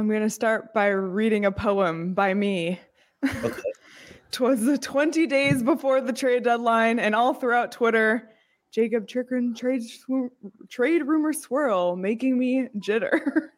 going to start by reading a poem by me. Okay. 'Twas the 20 days before the trade deadline, and all throughout Twitter, Jacob Chikrin trade rumor swirl, making me jitter.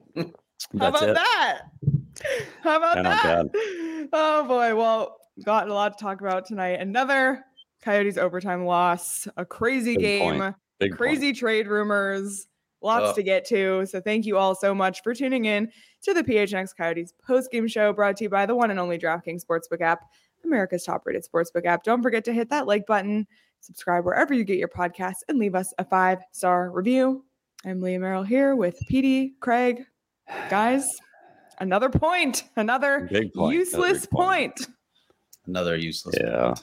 How about that? How about that? Oh boy. Well, got a lot to talk about tonight. Another Coyotes overtime loss, a crazy game, crazy trade rumors, lots to get to. So thank you all so much for tuning in to the PHNX Coyotes post-game show, brought to you by the one and only DraftKings Sportsbook app, America's top-rated sportsbook app. Don't forget to hit that like button, subscribe wherever you get your podcasts, and leave us a 5-star review. I'm Leah Merrill here with Petey, Craig. Guys, another point, another useless point. Another useless point.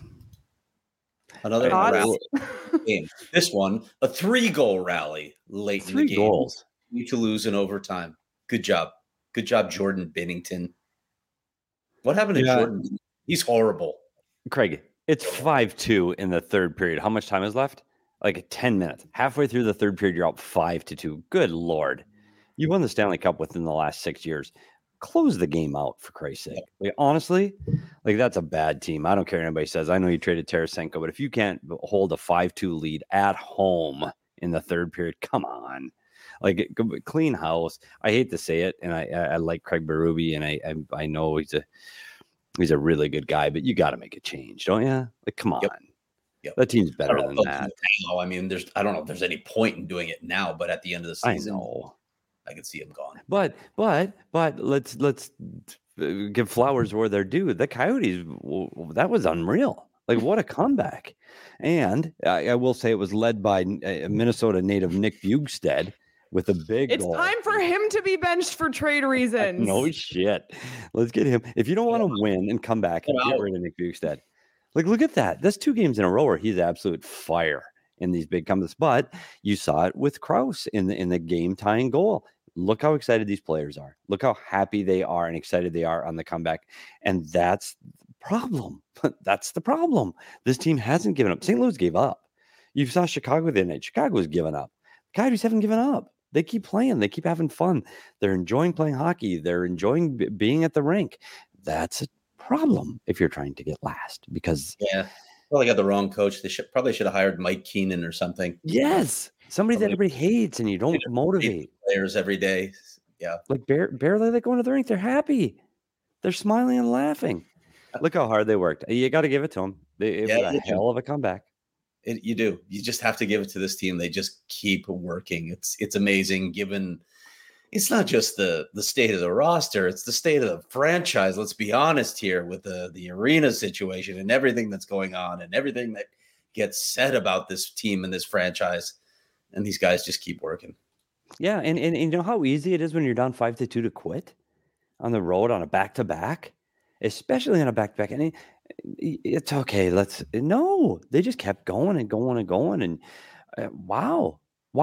Another rally game. This one, a 3-goal rally late in the game. 3 goals. You to lose in overtime. Good job. Good job, Jordan Binnington. What happened to Jordan? He's horrible. Craig, it's 5-2 in the third period. How much time is left? Like 10 minutes. Halfway through the third period, you're up 5-2. Good Lord. You won the Stanley Cup within the last 6 years. Close the game out, for Christ's sake. Like, honestly, like, that's a bad team. I don't care what anybody says. I know you traded Tarasenko, but if you can't hold a 5-2 lead at home in the third period, come on. Like, clean house. I hate to say it, and I like Craig Berube, and I know he's a really good guy, but you got to make a change, don't you? Like, come on. Yep. That team's better than that. I mean, I don't know if there's any point in doing it now, but at the end of the season, I could see him gone. But let's give flowers where they're due. The Coyotes, that was unreal. Like, what a comeback. And I will say it was led by Minnesota native Nick Bjugstad with a big goal. It's time for him to be benched for trade reasons. No shit. Let's get him. If you don't want to win and come back, get rid of Nick Bjugstad. Like, look at that. That's 2 games in a row where he's absolute fire in these big comebacks. But you saw it with Krause in the game-tying goal. Look how excited these players are. Look how happy they are and excited they are on the comeback. And that's the problem. That's the problem. This team hasn't given up. St. Louis gave up. You saw Chicago the other night. Chicago was giving up. The Coyotes haven't given up. They keep playing. They keep having fun. They're enjoying playing hockey. They're enjoying being at the rink. That's a problem if you're trying to get last, because probably got the wrong coach. They probably should have hired Mike Keenan or something. Yes, somebody that everybody hates and you don't motivate players every day. Yeah, like barely they go into the rink. They're happy. They're smiling and laughing. Look how hard they worked. You got to give it to them. It was a hell of a comeback. You do. You just have to give it to this team. They just keep working. It's amazing. Given it's not just the state of the roster, it's the state of the franchise. Let's be honest here with the arena situation and everything that's going on and everything that gets said about this team and this franchise. And these guys just keep working. Yeah, and you know how easy it is when you're down 5-2 to quit on the road on a back-to-back, especially on a back-to-back. And it's okay. They just kept going and going and going. And wow.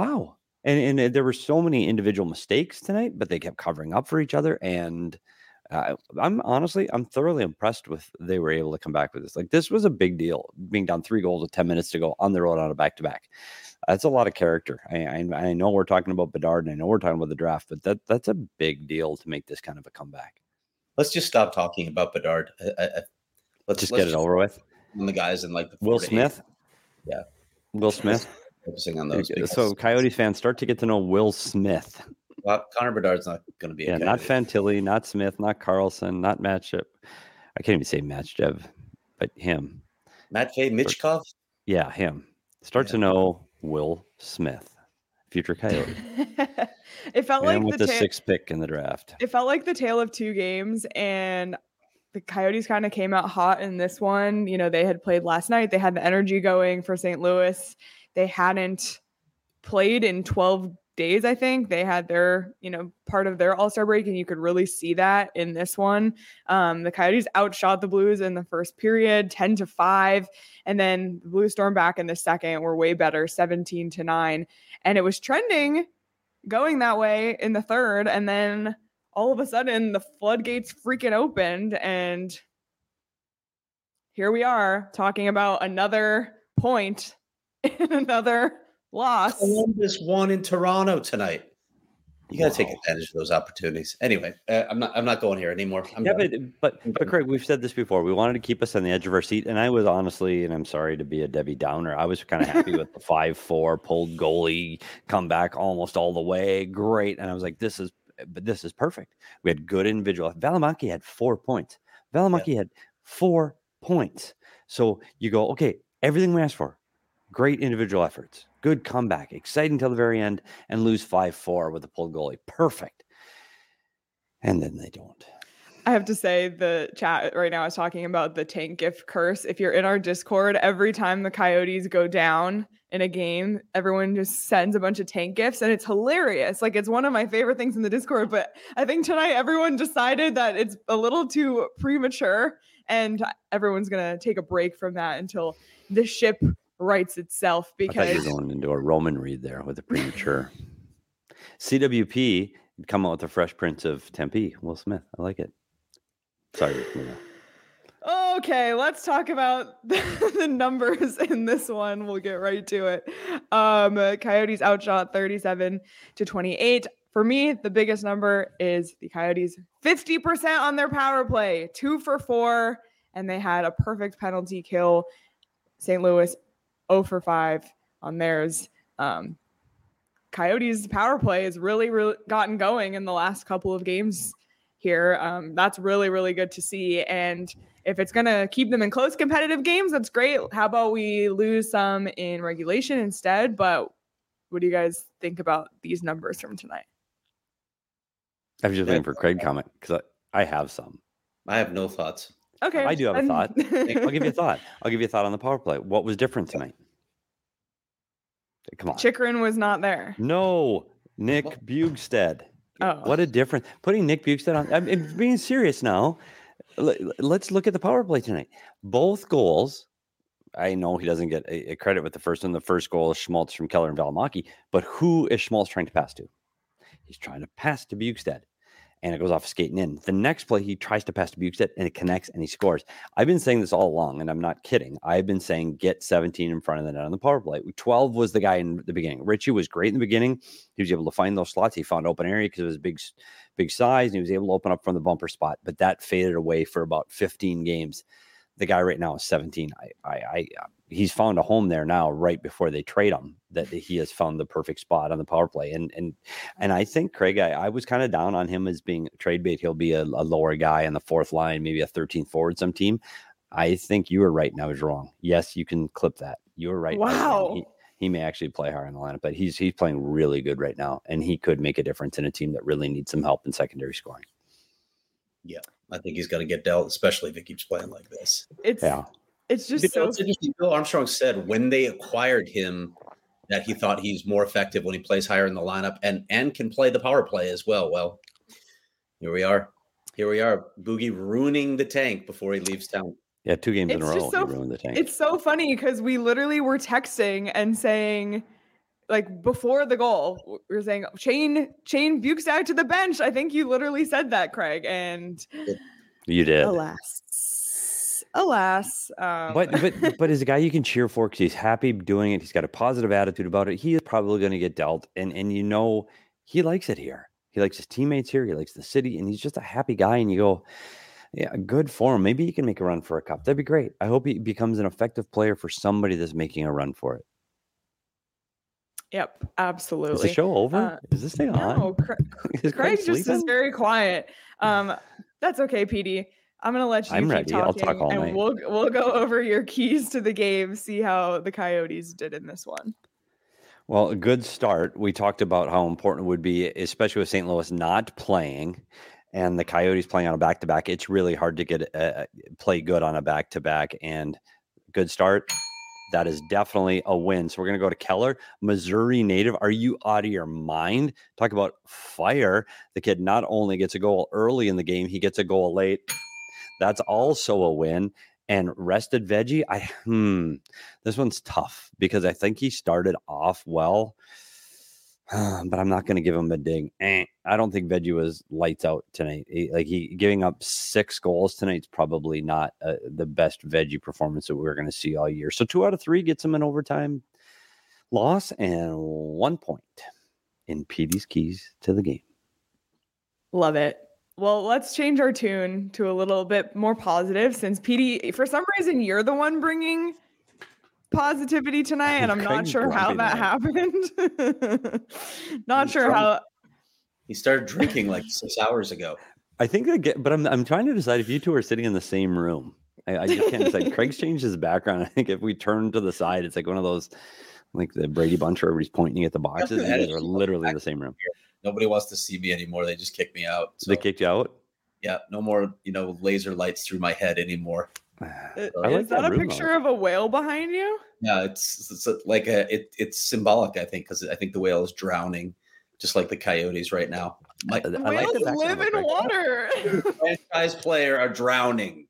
And there were so many individual mistakes tonight, but they kept covering up for each other. And I'm thoroughly impressed with they were able to come back with this. Like, this was a big deal, being down 3 goals with 10 minutes to go on the road on a back-to-back. That's a lot of character. I know we're talking about Bedard, and I know we're talking about the draft, but that's a big deal to make this kind of a comeback. Let's just stop talking about Bedard. Let's get it over with. On the guys in like the Will Smith. Yeah, Will Smith. Focusing on those. So Coyotes fans, start to get to know Will Smith. Well, Connor Bedard's not going to be. Not Fantilli, not Smith, not Carlson, not Matchup. I can't even say Matchev, but him. Matvei Michkov. Yeah, him. Start to know Will Smith, future Coyote. It felt like with the 6th pick in the draft. It felt like the tale of 2 games, and the Coyotes kind of came out hot in this one. You know, they had played last night. They had the energy going for St. Louis. They hadn't played in 12 days, I think. They had their, part of their All-Star break, and you could really see that in this one. The Coyotes outshot the Blues in the first period, 10-5, and then the Blues stormed back in the second, were way better, 17-9. And it was trending going that way in the third, and then all of a sudden the floodgates freaking opened, and here we are talking about another point in another loss. Columbus won in Toronto tonight. You got to take advantage of those opportunities. Anyway, I'm not going here anymore. But Craig, we've said this before. We wanted to keep us on the edge of our seat, and I was honestly, and I'm sorry to be a Debbie Downer, I was kind of happy with the 5-4 pulled goalie comeback almost all the way. Great, and I was like, this is perfect. We had good individual. Valimaki had 4 points. Valimaki had 4 points. So you go, okay, everything we asked for. Great individual efforts. Good comeback. Exciting till the very end, and lose 5-4 with a pulled goalie. Perfect. And then they don't. I have to say, the chat right now is talking about the tank gift curse. If you're in our Discord, every time the Coyotes go down in a game, everyone just sends a bunch of tank gifts, and it's hilarious. Like, it's one of my favorite things in the Discord, but I think tonight everyone decided that it's a little too premature, and everyone's going to take a break from that until the ship rights itself, because I thought you were going into a Roman read there with a premature. CWP come out with the Fresh Prince of Tempe, Will Smith. I like it. Sorry. Okay, let's talk about the numbers in this one. We'll get right to it. Coyotes outshot 37-28. For me, the biggest number is the Coyotes 50% on their power play, 2 for 4, and they had a perfect penalty kill. St. Louis 0 for 5 on theirs. Coyotes power play has really gotten going in the last couple of games here. That's really, really good to see. And if it's going to keep them in close competitive games, that's great. How about we lose some in regulation instead? But what do you guys think about these numbers from tonight? I was just waiting for Craig comment because I have some. I have no thoughts. Okay. I do have a thought. I'll give you a thought. I'll give you a thought on the power play. What was different tonight? Come on. Chychrun was not there. No, Nick Bjugstad. Oh. What a difference. Putting Nick Bjugstad on. I'm being serious now. Let's look at the power play tonight. Both goals. I know he doesn't get a credit with the first one. The first goal is Schmaltz from Keller and Valimaki. But who is Schmaltz trying to pass to? He's trying to pass to Bjugstad. And it goes off skating in. The next play, he tries to pass to Bjugstad, and it connects, and he scores. I've been saying this all along, and I'm not kidding. I've been saying get 17 in front of the net on the power play. 12 was the guy in the beginning. Richie was great in the beginning. He was able to find those slots. He found open area because of his big size, and he was able to open up from the bumper spot. But that faded away for about 15 games. The guy right now is 17. He's found a home there now right before they trade him, that he has found the perfect spot on the power play. And I think, Craig, I was kind of down on him as being trade bait. He'll be a lower guy on the fourth line, maybe a 13th forward some team. I think you were right and I was wrong. Yes, you can clip that. You were right. Wow. He may actually play higher in the lineup, but he's playing really good right now, and he could make a difference in a team that really needs some help in secondary scoring. Yeah, I think he's going to get dealt, especially if he keeps playing like this. It's just so interesting. Bill Armstrong said when they acquired him that he thought he's more effective when he plays higher in the lineup and can play the power play as well. Well, here we are. Boogie ruining the tank before he leaves town. Yeah, 2 games in a row, he ruined the tank. It's so funny because we literally were texting and saying, like, before the goal, we were saying, chain Bjugstad to the bench. I think you literally said that, Craig. And you did. Alas. But as a guy you can cheer for because he's happy doing it. He's got a positive attitude about it. He is probably going to get dealt. And you know, he likes it here. He likes his teammates here. He likes the city. And he's just a happy guy. And you go, yeah, good for him. Maybe he can make a run for a cup. That'd be great. I hope he becomes an effective player for somebody that's making a run for it. Yep, absolutely. Is the show over? Is this thing on? No, Craig just is very quiet. That's okay, PD. I'm gonna let you keep ready. talking, I'll talk all night. We'll go over your keys to the game, see how the Coyotes did in this one. Well, a good start. We talked about how important it would be, especially with St. Louis not playing and the Coyotes playing on a back-to-back. It's really hard to get play good on a back-to-back, and good start. That is definitely a win. So we're going to go to Keller, Missouri native. Are you out of your mind? Talk about fire. The kid not only gets a goal early in the game, he gets a goal late. That's also a win. And rested Veggie, this one's tough because I think he started off well, but I'm not going to give him a dig. I don't think Veggie was lights out tonight. He giving up 6 goals tonight's probably not the best Veggie performance that we're going to see all year. So 2 out of 3 gets him an overtime loss and 1 point. in Petey's keys to the game. Love it. Well, let's change our tune to a little bit more positive since Petey, for some reason, you're the one bringing positivity tonight, and I'm not sure how that happened. Not sure how. He started drinking like 6 hours ago. I think but I'm trying to decide if you two are sitting in the same room. I just can't decide. Craig's changed his background. I think if we turn to the side, it's like one of those, like the Brady Bunch where everybody's pointing at the boxes. You guys are literally in the same room. Nobody wants to see me anymore. They just kicked me out. So. They kicked you out? Yeah, no more, laser lights through my head anymore. Is that a picture of a whale behind you? Yeah, it's like it's symbolic, I think, because I think the whale is drowning, just like the Coyotes right now. Whales live in water. Franchise player are drowning.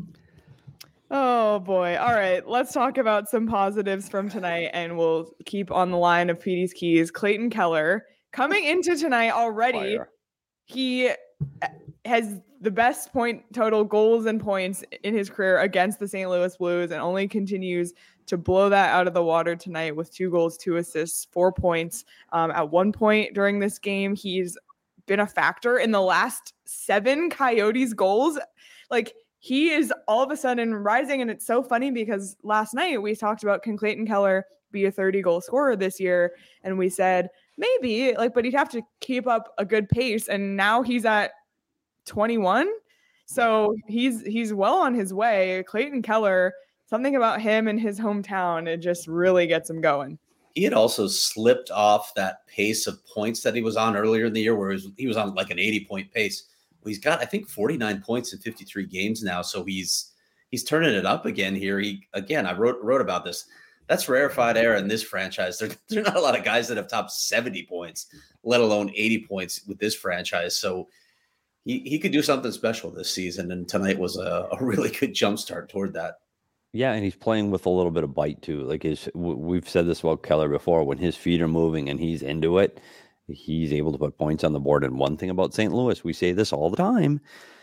Oh boy. All right. Let's talk about some positives from tonight, and we'll keep on the line of Petey's keys. Clayton Keller coming into tonight already. He has the best point total goals and points in his career against the St. Louis Blues, and only continues to blow that out of the water tonight with 2 goals, 2 assists, 4 points. At one point during this game, he's been a factor in the last 7 Coyotes goals. Like, he is all of a sudden rising, and it's so funny because last night we talked about, can Clayton Keller be a 30-goal scorer this year? And we said maybe, but he'd have to keep up a good pace, and now he's at 21. So he's well on his way. Clayton Keller, something about him in his hometown, it just really gets him going. He had also slipped off that pace of points that he was on earlier in the year, where he was on like an 80-point pace. He's got, I think, 49 points in 53 games now. So he's turning it up again here. I wrote about this. That's rarefied air in this franchise. There are not a lot of guys that have topped 70 points, let alone 80 points with this franchise. So he could do something special this season. And tonight was a really good jumpstart toward that. Yeah, and he's playing with a little bit of bite too. Like we've said this about Keller before. When his feet are moving and he's into it, he's able to put points on the board. And one thing about St. Louis, we say this all the time,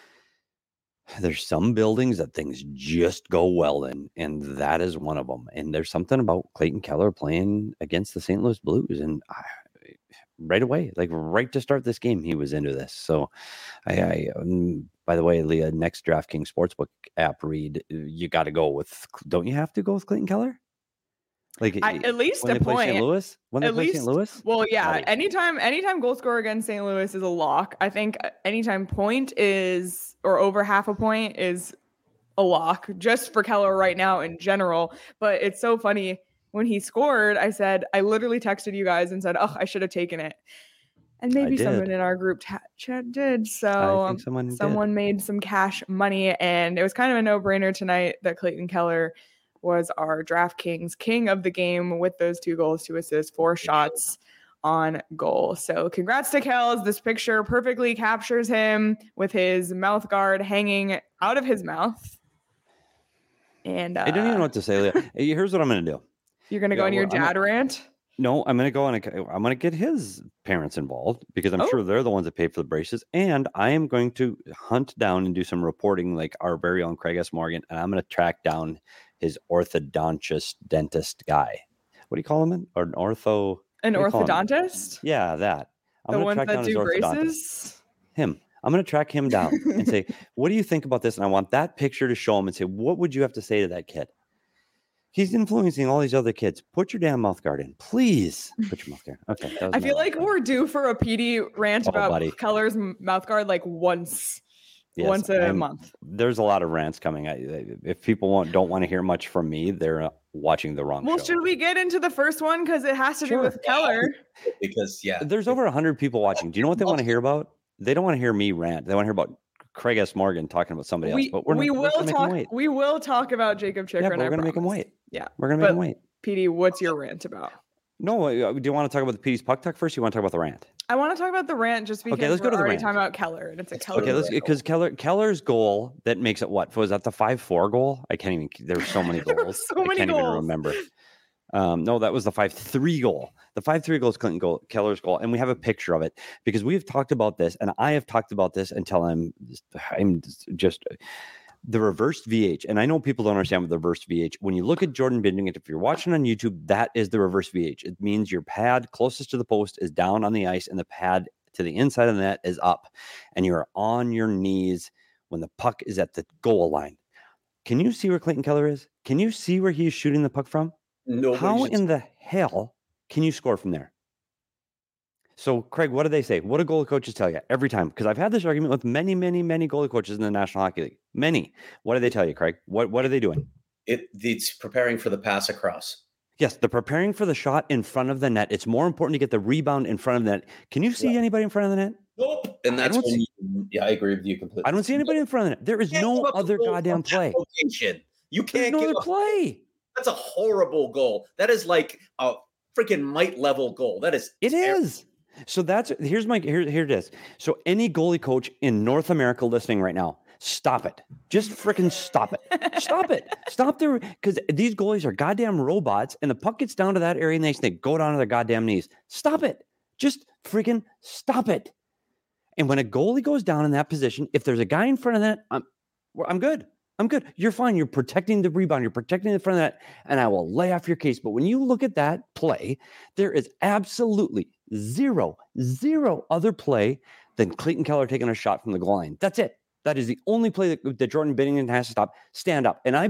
there's some buildings that things just go well in, and that is one of them. And there's something about Clayton Keller playing against the St. Louis Blues, and right away, like right to start this game, he was into this. So I by the way, Leah, next DraftKings Sportsbook app read, you got to go with, don't you have to go with Clayton Keller? Like at least when a they play point. St. Louis? When they play St. Louis? Well, yeah. Anytime goal scorer against St. Louis is a lock. I think anytime point is, or over half a point is a lock, just for Keller right now in general. But it's so funny. When he scored, I literally texted you guys and said, oh, I should have taken it. And maybe someone in our group chat did. So I think someone made some cash money, and it was kind of a no-brainer tonight that Clayton Keller was our DraftKings king of the game with those 2 goals, 2 assists, 4 shots on goal. So congrats to Kells. This picture perfectly captures him with his mouth guard hanging out of his mouth. And I don't even know what to say, Leah. Here's what I'm going to do. You're going to go on your dad rant? No, I'm going to go on. I'm going to get his parents involved, because I'm sure they're the ones that pay for the braces. And I am going to hunt down and do some reporting like our very own Craig S. Morgan. And I'm going to track down his orthodontist dentist guy. What do you call him? Or an orthodontist? Yeah, that. I'm the ones that do braces? Him. I'm going to track him down and say, what do you think about this? And I want that picture to show him and say, what would you have to say to that kid? He's influencing all these other kids. Put your damn mouth guard in. Please put your mouth guard. Okay. I feel like we're due for a PD rant about Keller's mouth guard like once a month. There's a lot of rants coming. If people don't want to hear much from me, they're watching the wrong show. Well, should we get into the first one? Because it has to do with Keller. Because, there's over 100 people watching. Do you know what they want to hear about? They don't want to hear me rant. They want to hear about Craig S. Morgan talking about somebody else. But we will talk about Jacob Chikrin. Yeah, we're going to make him wait. Yeah, we're going to make him wait. PD, what's your rant about? No, do you want to talk about the PD's puck talk first? Or you want to talk about the rant? I want to talk about the rant just because let's go to the already rant. talking about Keller, and it's a Keller. Okay, because Keller's goal that makes it what? Was that the 5-4 goal? I can't even. There were so many goals. I can't even remember. No, that was the 5-3 goal. The 5-3 goal is Keller's goal, and we have a picture of it because we've talked about this, and I have talked about this until I'm just The reversed VH, and I know people don't understand what the reversed VH. When you look at Jordan Binnington, if you're watching on YouTube, that is the reverse VH. It means your pad closest to the post is down on the ice, and the pad to the inside of the net is up, and you're on your knees when the puck is at the goal line. Can you see where Clayton Keller is? Can you see where he's shooting the puck from? How in the hell can you score from there? So, Craig, what do they say? What do goalie coaches tell you every time? Because I've had this argument with many, many, many goalie coaches in the National Hockey League. Many. What do they tell you, Craig? What are they doing? It's preparing for the pass across. Yes, they're preparing for the shot in front of the net. It's more important to get the rebound in front of the net. Can you see anybody in front of the net? Nope. And that's I agree with you completely. I don't see anybody in front of the net. There is no other goddamn play. You can't give a play. That's a horrible goal. That is like a freaking might level goal. That is. It is. So here it is. So any goalie coach in North America listening right now, stop it. Just freaking stop it. Stop it. Stop there, because these goalies are goddamn robots, and the puck gets down to that area and they go down to their goddamn knees. Stop it. Just freaking stop it. And when a goalie goes down in that position, if there's a guy in front of that, I'm good. I'm good. You're fine. You're protecting the rebound. You're protecting the front of that, and I will lay off your case. But when you look at that play, there is absolutely zero other play than Clayton Keller taking a shot from the goal line. That's it. That is the only play that Jordan Binnington has to stop. Stand up. And I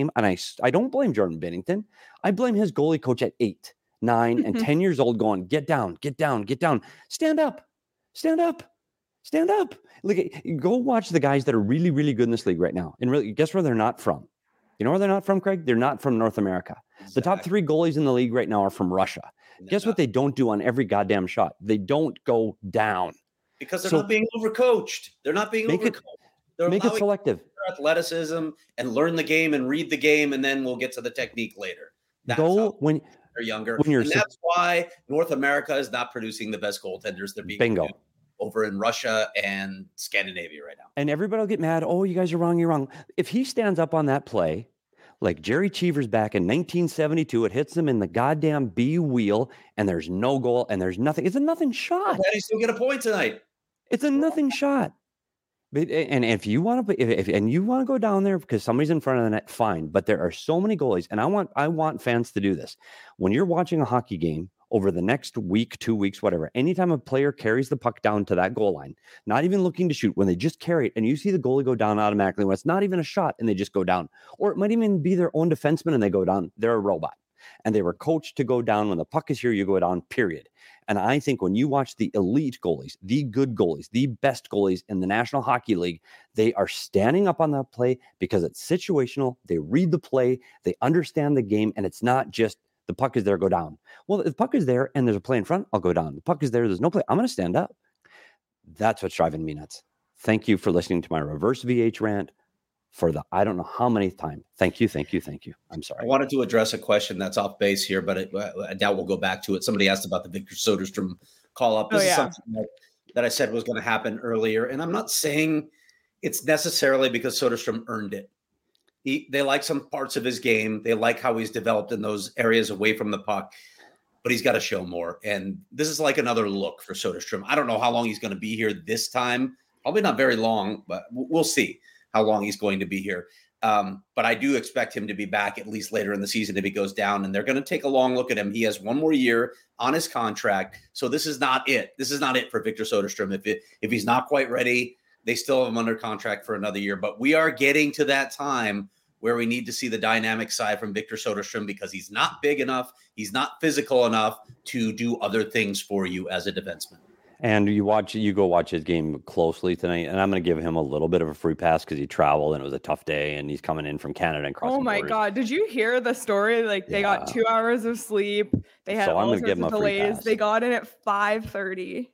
don't blame Jordan Binnington. I blame his goalie coach at 8, 9, and 10 years old going, get down, get down, get down. Stand up. Stand up. Stand up. Look, go watch the guys that are really, really good in this league right now. And really, guess where they're not from? You know where they're not from, Craig? They're not from North America. Exactly. The top 3 goalies in the league right now are from Russia. Guess what they don't do on every goddamn shot? They don't go down. Because they're not being overcoached. They're not being overcoached. Make it selective. Their athleticism and learn the game and read the game, and then we'll get to the technique later. That's when they're younger. And that's why North America is not producing the best goaltenders. They're being bingo. Over in Russia and Scandinavia right now. And everybody will get mad. Oh, you guys are wrong. You're wrong. If he stands up on that play, like Jerry Cheevers back in 1972, it hits him in the goddamn B wheel, and there's no goal, and there's nothing. It's a nothing shot. He still get a point tonight. It's a nothing shot. But, and if you want to, go down there because somebody's in front of the net, fine. But there are so many goalies, and I want fans to do this. When you're watching a hockey game, over the next week, 2 weeks, whatever, anytime a player carries the puck down to that goal line, not even looking to shoot, when they just carry it and you see the goalie go down automatically, when it's not even a shot and they just go down, or it might even be their own defenseman and they go down, they're a robot. And they were coached to go down. When the puck is here, you go down, period. And I think when you watch the elite goalies, the good goalies, the best goalies in the National Hockey League, they are standing up on that play because it's situational. They read the play, they understand the game, and it's not just the puck is there, go down. Well, if the puck is there and there's a play in front, I'll go down. The puck is there, there's no play, I'm going to stand up. That's what's driving me nuts. Thank you for listening to my reverse VH rant for the I don't know how many time. Thank you. I'm sorry. I wanted to address a question that's off base here, but I doubt we'll go back to it. Somebody asked about the Victor Soderstrom call up. This is something that I said was going to happen earlier, and I'm not saying it's necessarily because Soderstrom earned it. They like some parts of his game. They like how he's developed in those areas away from the puck, but he's got to show more. And this is like another look for Soderstrom. I don't know how long he's going to be here this time. Probably not very long, but we'll see how long he's going to be here. But I do expect him to be back at least later in the season if he goes down, and they're going to take a long look at him. He has one more year on his contract. So this is not it. This is not it for Victor Soderstrom. If he's not quite ready, they still have him under contract for another year. But we are getting to that time where we need to see the dynamic side from Victor Soderstrom, because he's not big enough. He's not physical enough to do other things for you as a defenseman. And you go watch his game closely tonight, and I'm going to give him a little bit of a free pass because he traveled and it was a tough day, and he's coming in from Canada and crossing. Oh my God! Did you hear the story? Like they got 2 hours of sleep. They had all sorts of delays. They got in at 5:30.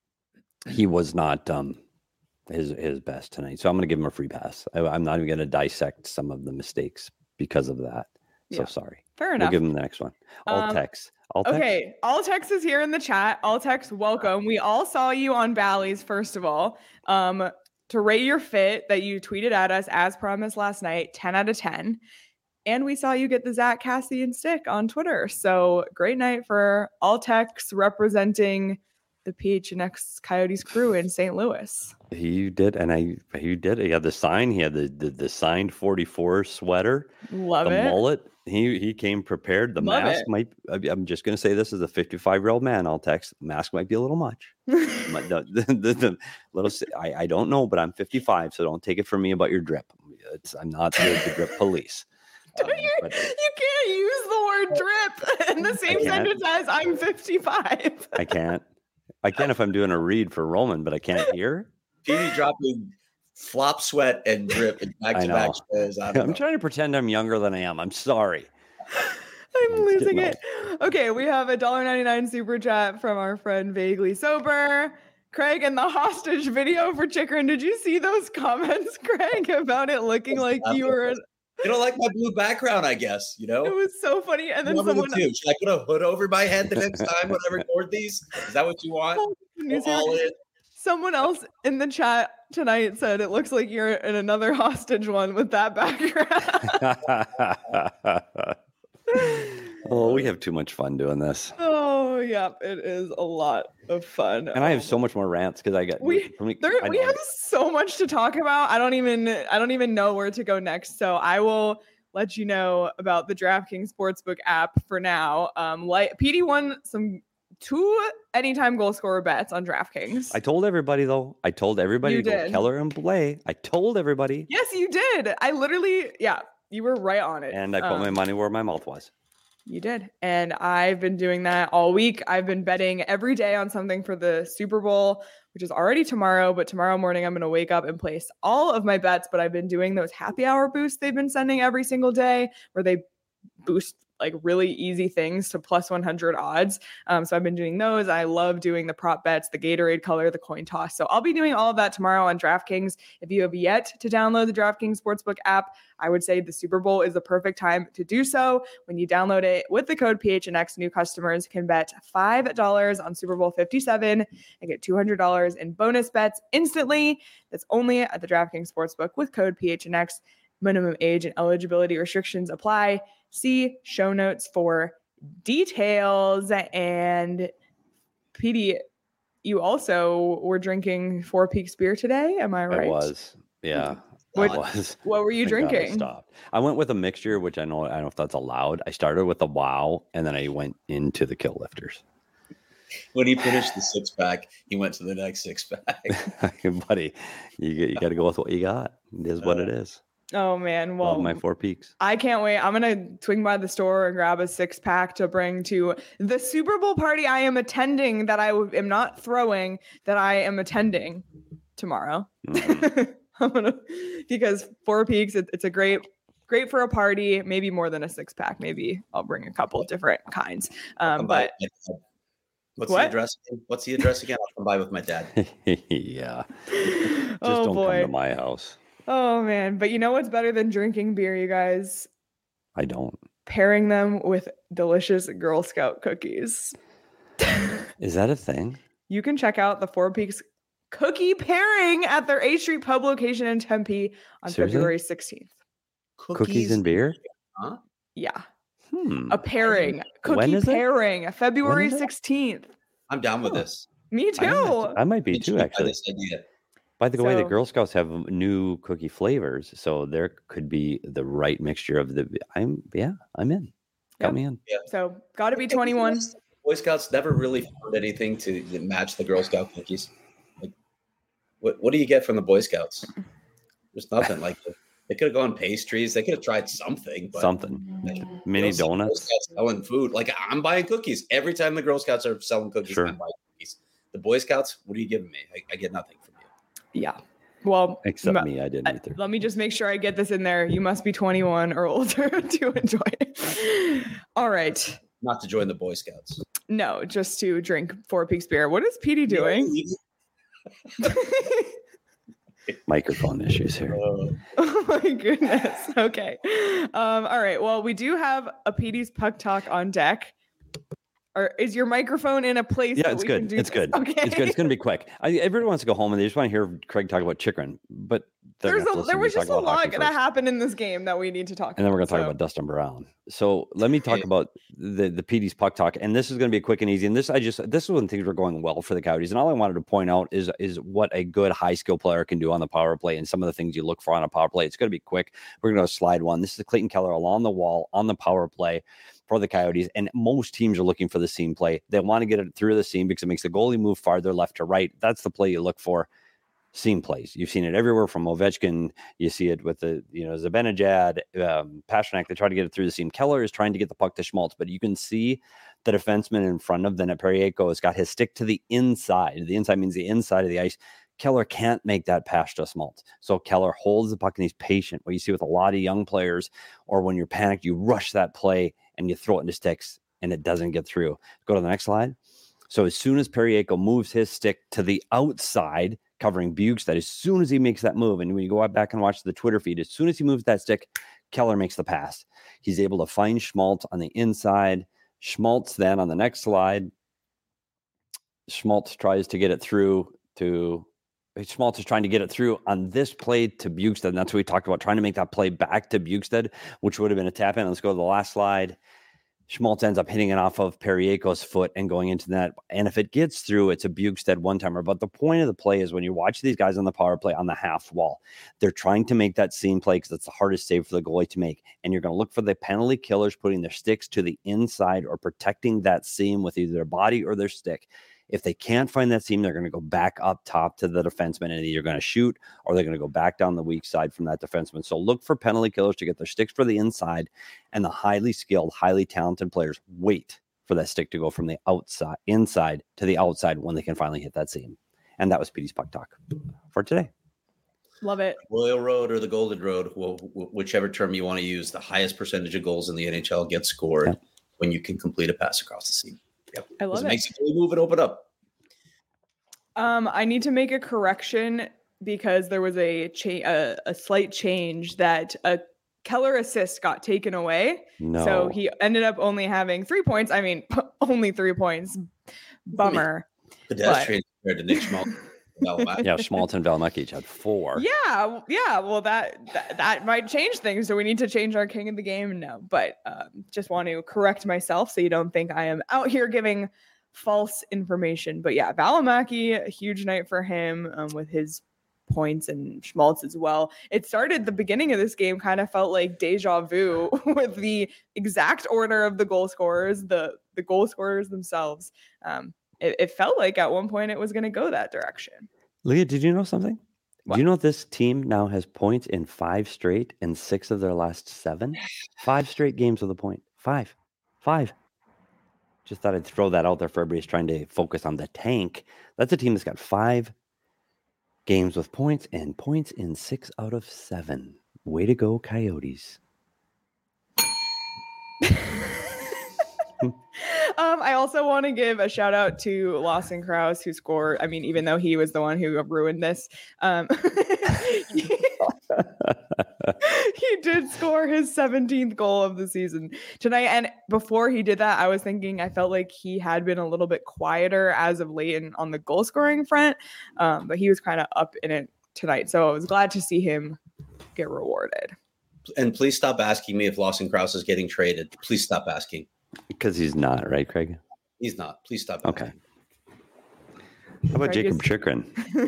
He was not his best tonight, so I'm going to give him a free pass. I'm not even going to dissect some of the mistakes because of that. So sorry. Fair enough. We'll give him the next one. Altex. Okay, Altex is here in the chat. Altex, welcome. We all saw you on Bally's, first of all. To rate your fit that you tweeted at us as promised last night, 10 out of 10. And we saw you get the Zach Cassian stick on Twitter. So great night for Altex representing the PHNX Coyotes crew in St. Louis. He did, and he did. He had the sign. He had the signed 44 sweater. Love the it. mullet. He came prepared. The Love mask it. might. I'm just going to say this as a 55-year-old man. I'll text. Mask might be a little much. the little. I don't know, but I'm 55, so don't take it from me about your drip. I'm not the drip police. You can't use the word drip in the same sentence as I'm 55. I can't. I can if I'm doing a read for Roman, but I can't hear. Petey dropping flop sweat and drip in back-to-back shows. I'm trying to pretend I'm younger than I am. I'm sorry. I'm losing it. Okay, we have a $1.99 super chat from our friend Vaguely Sober. Craig, and the hostage video for Chikrin. Did you see those comments, Craig, about it looking like you were... You don't like my blue background, I guess, you know? It was so funny. And then someone... Should I put a hood over my head the next time when I record these? Is that what you want? Someone else in the chat tonight said it looks like you're in another hostage one with that background. Oh, we have too much fun doing this. Oh, yeah, it is a lot of fun. And I have so much more rants because I got we have so much to talk about. I don't even know where to go next. So I will let you know about the DraftKings Sportsbook app for now. PD won 2 anytime goal scorer bets on DraftKings. I told everybody though. I told everybody you to go did. Keller and Blais. I told everybody. Yes, you did. I literally, you were right on it. And I put my money where my mouth was. You did. And I've been doing that all week. I've been betting every day on something for the Super Bowl, which is already tomorrow. But tomorrow morning, I'm going to wake up and place all of my bets. But I've been doing those happy hour boosts they've been sending every single day where they boost like really easy things to plus 100 odds. So I've been doing those. I love doing the prop bets, the Gatorade color, the coin toss. So I'll be doing all of that tomorrow on DraftKings. If you have yet to download the DraftKings Sportsbook app, I would say the Super Bowl is the perfect time to do so. When you download it with the code PHNX, new customers can bet $5 on Super Bowl 57 and get $200 in bonus bets instantly. That's only at the DraftKings Sportsbook with code PHNX. Minimum age and eligibility restrictions apply. See show notes for details. And PD, you also were drinking Four Peaks beer today. Am I right? I was. Yeah. What were you drinking? Stopped. I went with a mixture, which I don't know if that's allowed. I started with a Wow, and then I went into the Kill Lifters. When he finished the 6-pack, he went to the next 6-pack. Buddy, you got to go with what you got. It is what it is. Oh man, well, love my Four Peaks. I can't wait. I'm gonna swing by the store and grab a 6-pack to bring to the Super Bowl party I am attending. That I am not throwing. That I am attending tomorrow. Mm-hmm. Because Four Peaks, it's a great for a party. Maybe more than a 6-pack. Maybe I'll bring a couple of different kinds. But what's the address? What's the address again? I'll come by with my dad. Yeah. Just don't come to my house. Oh, man. But you know what's better than drinking beer, you guys? I don't. Pairing them with delicious Girl Scout cookies. Is that a thing? You can check out the Four Peaks cookie pairing at their A Street Pub location in Tempe on February 16th. Cookies and beer? Huh? Yeah. A pairing. Cookie pairing. February 16th. I'm down with this. Me too. I might be too, actually. This idea. By the way, the Girl Scouts have new cookie flavors, so there could be the right mixture of the. I'm in. Got me in. Yeah. So got to be 21. Boy Scouts never really found anything to match the Girl Scout cookies. Like, what do you get from the Boy Scouts? There's nothing. Like they could have gone pastries. They could have tried something. But mini donuts. Girl Scouts selling food. Like I'm buying cookies every time the Girl Scouts are selling cookies. Sure. I'm buying cookies. The Boy Scouts, what are you giving me? I get nothing from you. Yeah. Well, except me, I didn't either. Let me just make sure I get this in there. You must be 21 or older to enjoy it. All right. Not to join the Boy Scouts. No, just to drink Four Peaks beer. What is PD doing? Microphone issues here. Oh my goodness. Okay. All right. Well, we do have a PD's Puck Talk on deck. Or is your microphone in a place? Yeah, it's good. It's good. Okay. It's good. It's going to be quick. Everybody wants to go home and they just want to hear Craig talk about Chikrin. But they're gonna have to listen there to me was talk just a about hockey lot going to first. happen in this game that we need to talk about. And then we're going to talk about Dustin Brown. So let me talk about the PD's puck talk. And this is going to be quick and easy. And this is when things were going well for the Coyotes. And all I wanted to point out is what a good high skill player can do on the power play and some of the things you look for on a power play. It's going to be quick. We're going to go slide one. This is Clayton Keller along the wall on the power play for the Coyotes. And most teams are looking for the seam play. They want to get it through the seam because it makes the goalie move farther left to right. That's the play you look for. Seam plays. You've seen it everywhere from Ovechkin. You see it with the, Zibanejad, Pastrnak. They try to get it through the seam. Keller is trying to get the puck to Schmaltz, but you can see the defenseman in front of them at Periaco has got his stick to the inside. The inside means the inside of the ice. Keller can't make that pass to Schmaltz. So Keller holds the puck and he's patient. What you see with a lot of young players, or when you're panicked, you rush that play and you throw it into sticks and it doesn't get through. Go to the next slide. So as soon as Periaco moves his stick to the outside, covering Bukestad, as soon as he makes that move, and when you go back and watch the Twitter feed, as soon as he moves that stick, Keller makes the pass. He's able to find Schmaltz on the inside. Schmaltz then on the next slide, Schmaltz tries to get it through to Schmaltz is trying to get it through on this play to Bukestad. And that's what we talked about, trying to make that play back to Bukestad, which would have been a tap in. Let's go to the last slide. Schmaltz ends up hitting it off of Periaco's foot and going into that. And if it gets through, it's a Bukestad one-timer. But the point of the play is when you watch these guys on the power play on the half wall, they're trying to make that seam play because it's the hardest save for the goalie to make. And you're going to look for the penalty killers putting their sticks to the inside or protecting that seam with either their body or their stick. If they can't find that seam, they're going to go back up top to the defenseman and either going to shoot or they're going to go back down the weak side from that defenseman. So look for penalty killers to get their sticks for the inside, and the highly skilled, highly talented players wait for that stick to go from the inside to the outside when they can finally hit that seam. And that was PD's Puck Talk for today. Love it. Royal Road or the Golden Road, whichever term you want to use, the highest percentage of goals in the NHL get scored when you can complete a pass across the seam. Yep. I love it. Makes it move and open up. I need to make a correction because there was a slight change that a Keller assist got taken away. No. So he ended up only having 3 points. I mean, only 3 points. Bummer. Pedestrian compared to Nick Schmaltz. Yeah, Schmaltz and Valimaki each had 4. Yeah. Well, that might change things. Do we need to change our king of the game? No, but just want to correct myself so you don't think I am out here giving false information. But yeah, Valimaki, a huge night for him with his points, and Schmaltz as well. It started the beginning of this game kind of felt like deja vu with the exact order of the goal scorers, the goal scorers themselves. It felt like at one point it was going to go that direction. Leah, did you know something? What? Do you know this team now has points in 5 straight and 6 of their last 7? 5 straight games with a point. 5. Just thought I'd throw that out there for everybody who's trying to focus on the tank. That's a team that's got 5 games with points and points in 6 out of 7. Way to go, Coyotes. I also want to give a shout out to Lawson Krause, who scored. I mean, even though he was the one who ruined this, he did score his 17th goal of the season tonight. And before he did that, I was thinking, I felt like he had been a little bit quieter as of late on the goal scoring front, but he was kind of up in it tonight. So I was glad to see him get rewarded. And please stop asking me if Lawson Krause is getting traded. Please stop asking. Because he's not, right, Craig? He's not. Please stop. Okay. How about Craig Jacob Chychrun?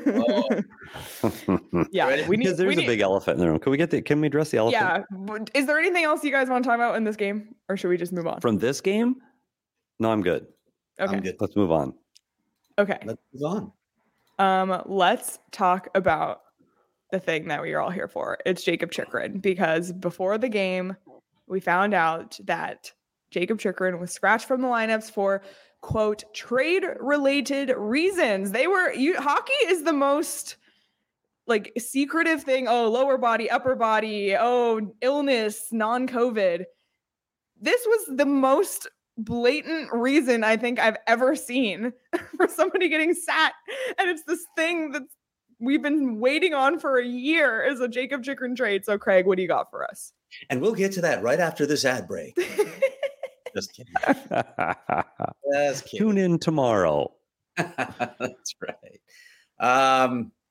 Yeah, we need. There's a big elephant in the room. Can we address the elephant? Yeah. Is there anything else you guys want to talk about in this game, or should we just move on? From this game? No, I'm good. Okay. I'm good. Let's move on. Okay. Let's move on. Let's talk about the thing that we are all here for. It's Jacob Chychrun, because before the game, we found out that Jacob Chychrun was scratched from the lineups for, quote, trade-related reasons. Hockey is the most like secretive thing. Oh, lower body, upper body. Oh, illness, non-COVID. This was the most blatant reason I think I've ever seen for somebody getting sat. And it's this thing that we've been waiting on for a year is a Jacob Chychrun trade. So Craig, what do you got for us? And we'll get to that right after this ad break. Just kidding. Just kidding. Tune in tomorrow. That's right.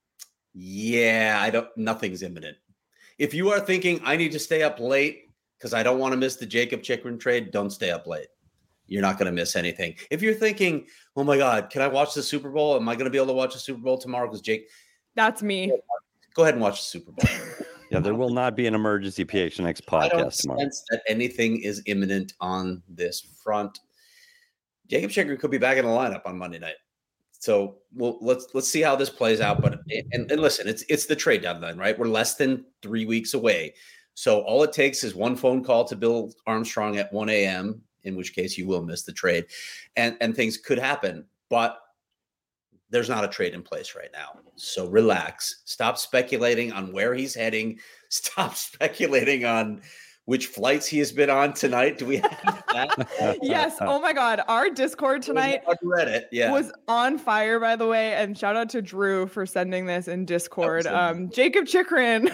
Yeah, nothing's imminent. If you are thinking I need to stay up late because I don't want to miss the Jakob Chychrun trade, don't stay up late. You're not going to miss anything. If you're thinking, oh my God, can I watch the Super Bowl? Am I going to be able to watch the Super Bowl tomorrow? Because Jake. That's me. Go ahead and watch the Super Bowl. Yeah, there will not be an emergency PHNX podcast I don't tomorrow. sense that anything is imminent on this front. Jakob Chychrun could be back in the lineup on Monday night. So let's see how this plays out. But and listen, it's the trade deadline, right? We're less than 3 weeks away. So all it takes is one phone call to Bill Armstrong at 1 a.m., in which case you will miss the trade. And things could happen. But there's not a trade in place right now. So relax. Stop speculating on where he's heading. Stop speculating on which flights he has been on tonight. Do we have that? Yes. Oh my God. Our Discord tonight was on fire, by the way. And shout out to Drew for sending this in Discord. Jakob Chychrun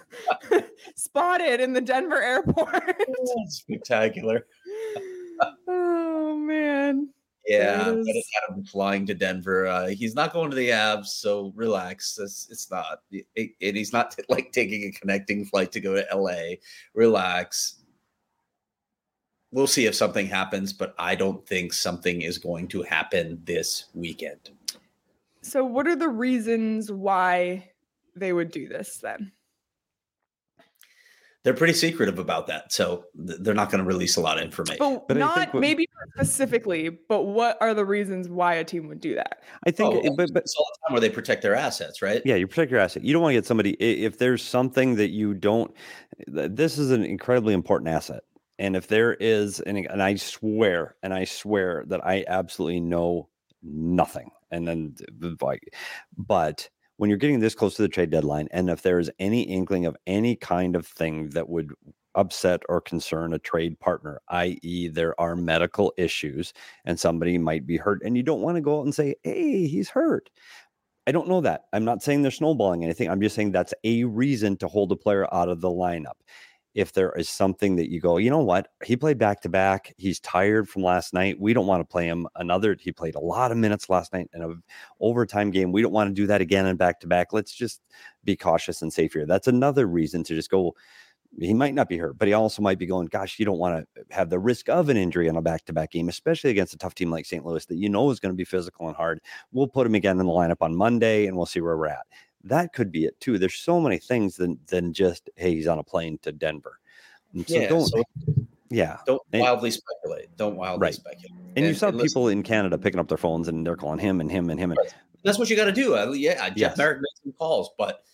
spotted in the Denver airport. Spectacular. Oh man. Yeah, Adam flying to Denver. He's not going to the Avs, so relax. It's not, and he's not like taking a connecting flight to go to LA. Relax. We'll see if something happens, but I don't think something is going to happen this weekend. So, what are the reasons why they would do this then? They're pretty secretive about that, so they're not going to release a lot of information. But not maybe specifically, but what are the reasons why a team would do that? I think, but it's all the time where they protect their assets, right? Yeah, you protect your asset. You don't want to get somebody if there's something that you don't. This is an incredibly important asset, and if there is, and I swear that I absolutely know nothing, and then but. When you're getting this close to the trade deadline, and if there is any inkling of any kind of thing that would upset or concern a trade partner, i.e. there are medical issues and somebody might be hurt, and you don't want to go out and say, hey, he's hurt. I don't know that. I'm not saying they're snowballing anything. I'm just saying that's a reason to hold a player out of the lineup. If there is something that you go, you know what, he played back-to-back. He's tired from last night. We don't want to play him another. He played a lot of minutes last night in an overtime game. We don't want to do that again in back-to-back. Let's just be cautious and safe here. That's another reason to just go, he might not be hurt, but he also might be going, gosh, you don't want to have the risk of an injury on a back-to-back game, especially against a tough team like St. Louis that you know is going to be physical and hard. We'll put him again in the lineup on Monday, and we'll see where we're at. That could be it, too. There's so many things than just, hey, he's on a plane to Denver. So don't wildly speculate. Don't wildly speculate. And you saw people in Canada picking up their phones and they're calling him and him and him. And that's what you got to do. Jeff Marek made some calls, but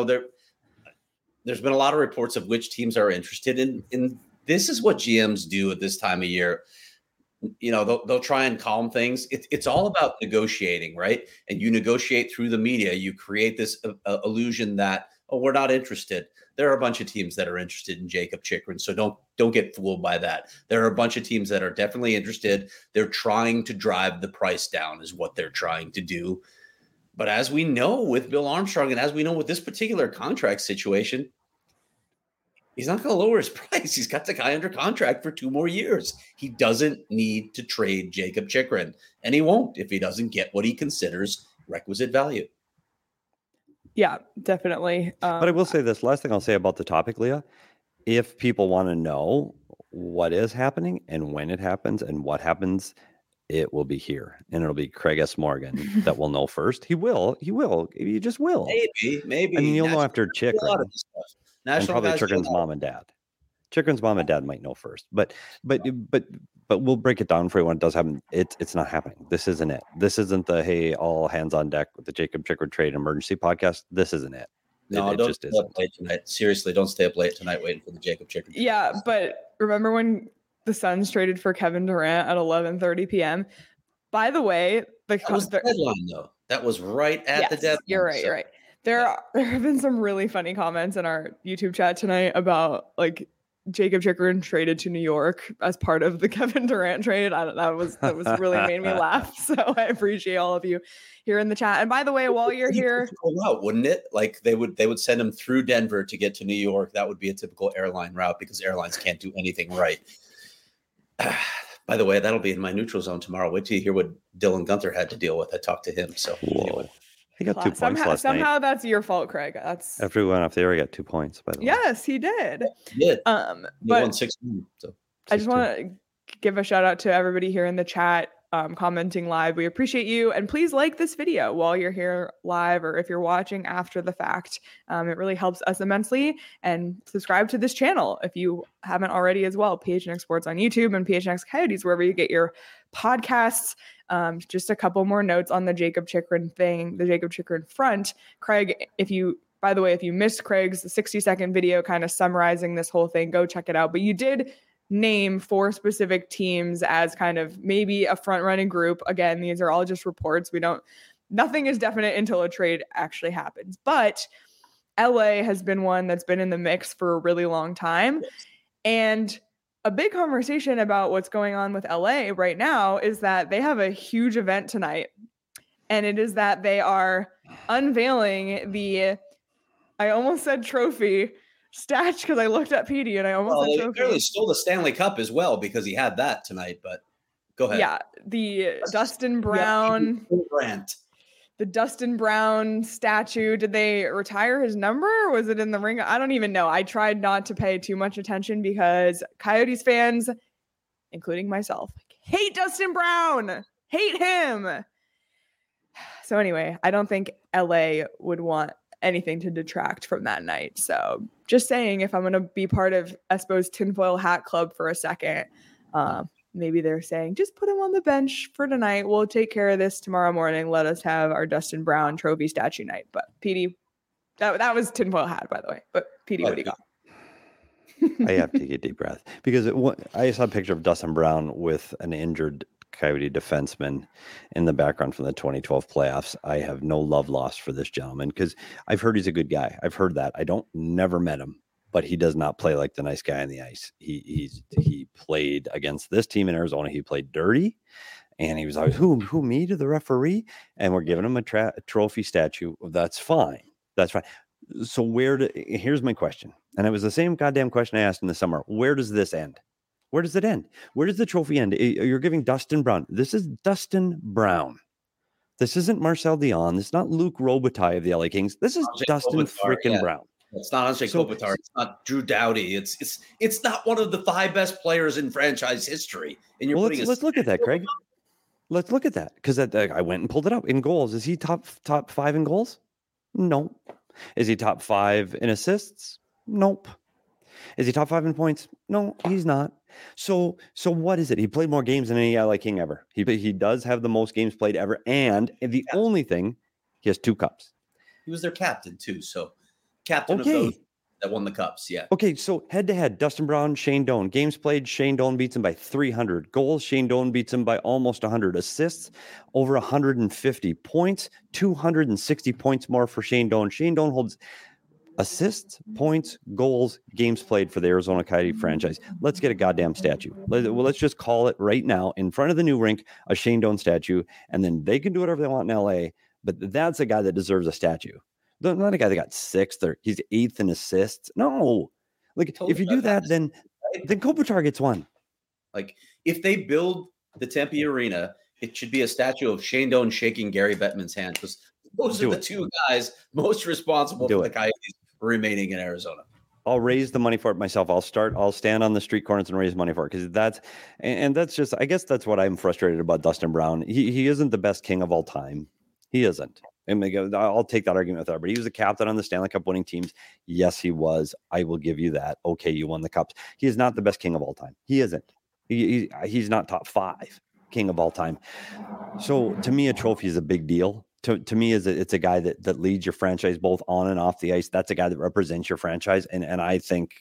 there's been a lot of reports of which teams are interested in. This is what GMs do at this time of year. They'll try and calm things. It's all about negotiating, right? And you negotiate through the media. You create this illusion that, oh, we're not interested. There are a bunch of teams that are interested in Jakob Chychrun, so don't get fooled by that. There are a bunch of teams that are definitely interested. They're trying to drive the price down is what they're trying to do. But as we know with Bill Armstrong and as we know with this particular contract situation, he's not going to lower his price. He's got the guy under contract for 2 more years. He doesn't need to trade Jakob Chychrun, and he won't if he doesn't get what he considers requisite value. Yeah, definitely. But I will say this last thing I'll say about the topic, Leah. If people want to know what is happening and when it happens and what happens, it will be here. And it'll be Craig S. Morgan that will know first. He will. He just will. Maybe. I mean, you'll know after Chychrun. And probably Chychrun's mom and dad. Chychrun's mom and dad might know first. But we'll break it down for you when it does happen. It's not happening. This isn't it. This isn't the hey, all hands on deck with the Jakob Chychrun trade emergency podcast. This isn't it. No, don't stay up late tonight. Seriously, don't stay up late tonight waiting for the Jakob Chychrun. Yeah, but remember when the Suns traded for Kevin Durant at 11:30 p.m.? By the way, that was the deadline, though. That was right at the deadline. You're right. There have been some really funny comments in our YouTube chat tonight about like Jakob Chychrun traded to New York as part of the Kevin Durant trade. That was really made me laugh. So I appreciate all of you here in the chat. And by the way, while you're here, route, wouldn't it? Like they would send him through Denver to get to New York. That would be a typical airline route because airlines can't do anything right. By the way, that'll be in my neutral zone tomorrow. Wait till you hear what Dylan Guenther had to deal with. I talked to him. So anyway. He got 2 points last somehow night. That's your fault, Craig. That's after we went off the air, he got 2 points. By the way, yes, he did. Yeah, but won 6-2. So I just want to give a shout out to everybody here in the chat, commenting live. We appreciate you, and please like this video while you're here live, or if you're watching after the fact. It really helps us immensely. And subscribe to this channel if you haven't already as well. PHNX Sports on YouTube and PHNX Coyotes wherever you get your podcasts. Just a couple more notes on the Jakob Chychrun thing, the Jakob Chychrun front. Craig, by the way, if you missed Craig's 60-second video kind of summarizing this whole thing, go check it out. But you did name 4 specific teams as kind of maybe a front-running group. Again, these are all just reports. Nothing is definite until a trade actually happens. But LA has been one that's been in the mix for a really long time. And a big conversation about what's going on with LA right now is that they have a huge event tonight. And it is that they are unveiling I almost said trophy statue because I looked at PD and I almost said trophy. They clearly stole the Stanley Cup as well because he had that tonight, but go ahead. Yeah, the Dustin Brown. The Dustin Brown statue. Did they retire his number or was it in the ring? I don't even know. I tried not to pay too much attention because Coyotes fans, including myself, hate Dustin Brown. Hate him. So anyway, I don't think LA would want anything to detract from that night. So just saying, if I'm going to be part of Espo's tinfoil hat club for a second, maybe they're saying, just put him on the bench for tonight. We'll take care of this tomorrow morning. Let us have our Dustin Brown trophy statue night. But PD, that was tinfoil hat, by the way. But PD, what do you got? I have to take a deep breath because I saw a picture of Dustin Brown with an injured Coyote defenseman in the background from the 2012 playoffs. I have no love lost for this gentleman because I've heard he's a good guy. I've heard that. I never met him, but he does not play like the nice guy on the ice. He played against this team in Arizona. He played dirty, and he was always who me to the referee, and we're giving him a trophy statue. That's fine. That's fine. So here's my question, and it was the same goddamn question I asked in the summer. Where does this end? Where does it end? Where does the trophy end? You're giving Dustin Brown. This is Dustin Brown. This isn't Marcel Dion. This is not Luc Robitaille of the LA Kings. This is Dustin freaking Brown. It's not Andrei Kopitar. It's not Drew Doughty. It's not one of the 5 best players in franchise history. And let's look at that, Craig. Let's look at that because I went and pulled it up in goals. Is he top 5 in goals? No. Is he top 5 in assists? Nope. Is he top 5 in points? No, he's not. So what is it? He played more games than any LA King ever. He does have the most games played ever, and the only thing, he has 2 cups. He was their captain too, so captain of those that won the cups. Yeah. Okay, so head to head, Dustin Brown, Shane Doan. Games played, Shane Doan beats him by 300. Goals, Shane Doan beats him by almost 100. Assists, over 150. Points, 260 points more for Shane Doan. Shane Doan holds assists, points, goals, games played for the Arizona Coyote franchise. Let's get a goddamn statue. Let's just call it right now in front of the new rink, a Shane Doan statue, and then they can do whatever they want in LA, but that's a guy that deserves a statue. Not a guy that got 6th or he's 8th in assists. No. Like, if you do that, then Kopitar gets one. Like, if they build the Tempe Arena, it should be a statue of Shane Doan shaking Gary Bettman's hand because those are the 2 guys most responsible for the Coyotes remaining in Arizona. I'll raise the money for it myself. I'll stand on the street corners and raise money for it because that's just, I guess that's what I'm frustrated about Dustin Brown. He isn't the best king of all time. He isn't. And I'll take that argument with her, but he was a captain on the Stanley Cup winning teams. Yes, he was. I will give you that. Okay, you won the cups. He is not the best king of all time. He isn't. He's not top 5 king of all time. So to me, a trophy is a big deal. To me, it's a guy that leads your franchise both on and off the ice. That's a guy that represents your franchise. And I think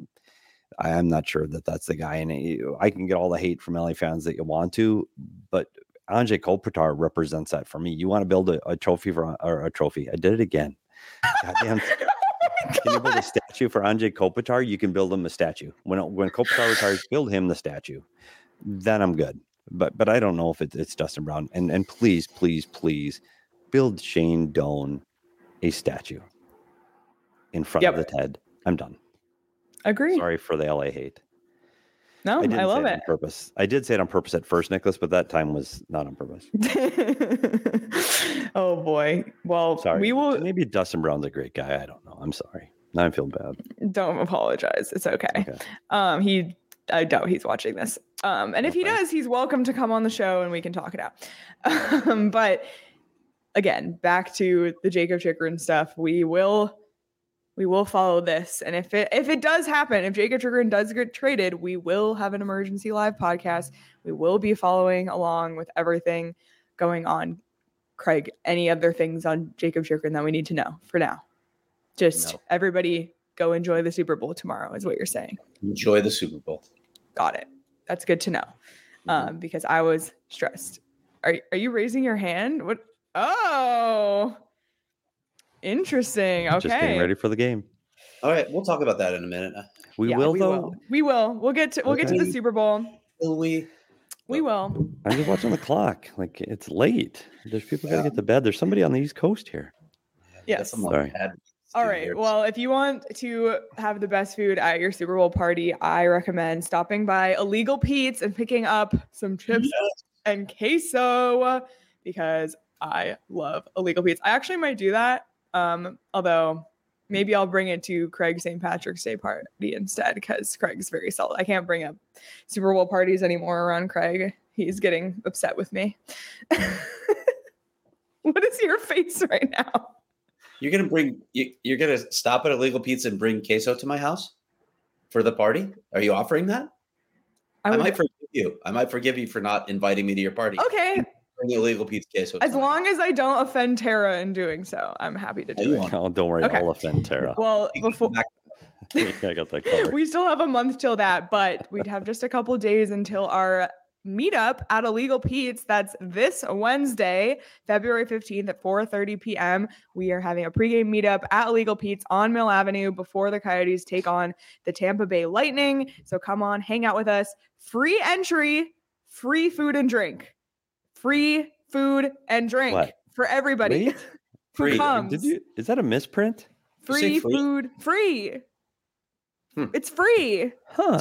I'm not sure that that's the guy. And I can get all the hate from LA fans that you want to, but Andrei Kopitar represents that for me. You want to build a trophy or a trophy. I did it again. Goddamn. Can you build a statue for Andrei Kopitar? You can build him a statue. When Kopitar retires, build him the statue. Then I'm good. But I don't know if it's Dustin Brown. And please, please, please build Shane Doan a statue in front of the TED. I'm done. Agree. Sorry for the LA hate. No, I love it. On purpose. I did say it on purpose at first, Nicholas, but that time was not on purpose. Oh boy. Well, Sorry. we will. Maybe Dustin Brown's a great guy. I don't know. I'm sorry. Now I feel bad. Don't apologize. It's okay. I doubt he's watching this. And if he does, he's welcome to come on the show and we can talk it out. But again, back to the Jakob Chychrun stuff. We will follow this. And if it does happen, if Jakob Chychrun does get traded, we will have an emergency live podcast. We will be following along with everything going on. Craig, any other things on Jakob Chychrun that we need to know for now? Just everybody go enjoy the Super Bowl tomorrow is what you're saying. Enjoy the Super Bowl. Got it. That's good to know. Because I was stressed. Are you raising your hand? What? Oh, interesting. Okay. Just getting ready for the game. All right, we'll talk about that in a minute. We will. We'll get to the Super Bowl. Will we? We will. I'm just watching the clock. Like it's late. There's people got to get to bed. There's somebody on the East Coast here. Yes. Sorry. All right. Well, if you want to have the best food at your Super Bowl party, I recommend stopping by Illegal Pete's and picking up some chips and queso because I love Illegal Pete's. I actually might do that. Although maybe I'll bring it to Craig's St. Patrick's Day party instead because Craig's very solid. I can't bring up Super Bowl parties anymore around Craig. He's getting upset with me. What is your face right now? You're gonna stop at Illegal Pizza and bring queso to my house for the party? Are you offering that? I might forgive you. I might forgive you for not inviting me to your party. Okay. Bring Illegal Pizza queso. As long as I don't offend Tara in doing so, I'm happy to do it. Oh, don't worry. Okay. I'll offend Tara. Well, before I got that covered. We still have a month till that, but we'd have just a couple days until our meetup at Illegal Pete's. That's this Wednesday, February 15th at 4:30 p.m. We are having a pregame meetup at Illegal Pete's on Mill Avenue before the Coyotes take on the Tampa Bay Lightning. So come on, hang out with us. Free entry, free food and drink. Free food and drink for everybody who comes. Is that a misprint? Free food, free. It's free. Huh.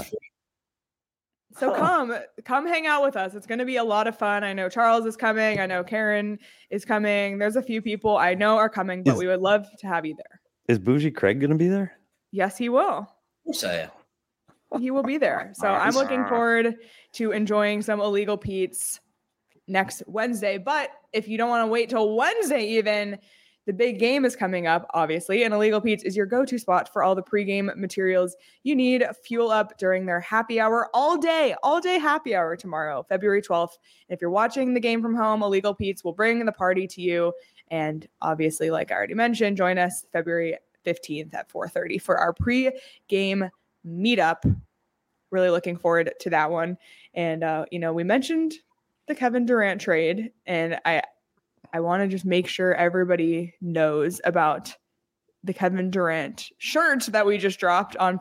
So come hang out with us. It's going to be a lot of fun. I know Charles is coming. I know Karen is coming. There's a few people I know are coming, but we would love to have you there. Is Bougie Craig going to be there? Yes, he will. Of course I am. He will be there. So I'm looking forward to enjoying some Illegal Pete's next Wednesday. But if you don't want to wait till Wednesday even, the big game is coming up, obviously, and Illegal Pete's is your go-to spot for all the pregame materials you need. Fuel up during their happy hour all day happy hour tomorrow, February 12th. And if you're watching the game from home, Illegal Pete's will bring the party to you. And obviously, like I already mentioned, join us February 15th at 4:30 for our pre-game meetup. Really looking forward to that one. And, we mentioned the Kevin Durant trade, and I want to just make sure everybody knows about the Kevin Durant shirt that we just dropped on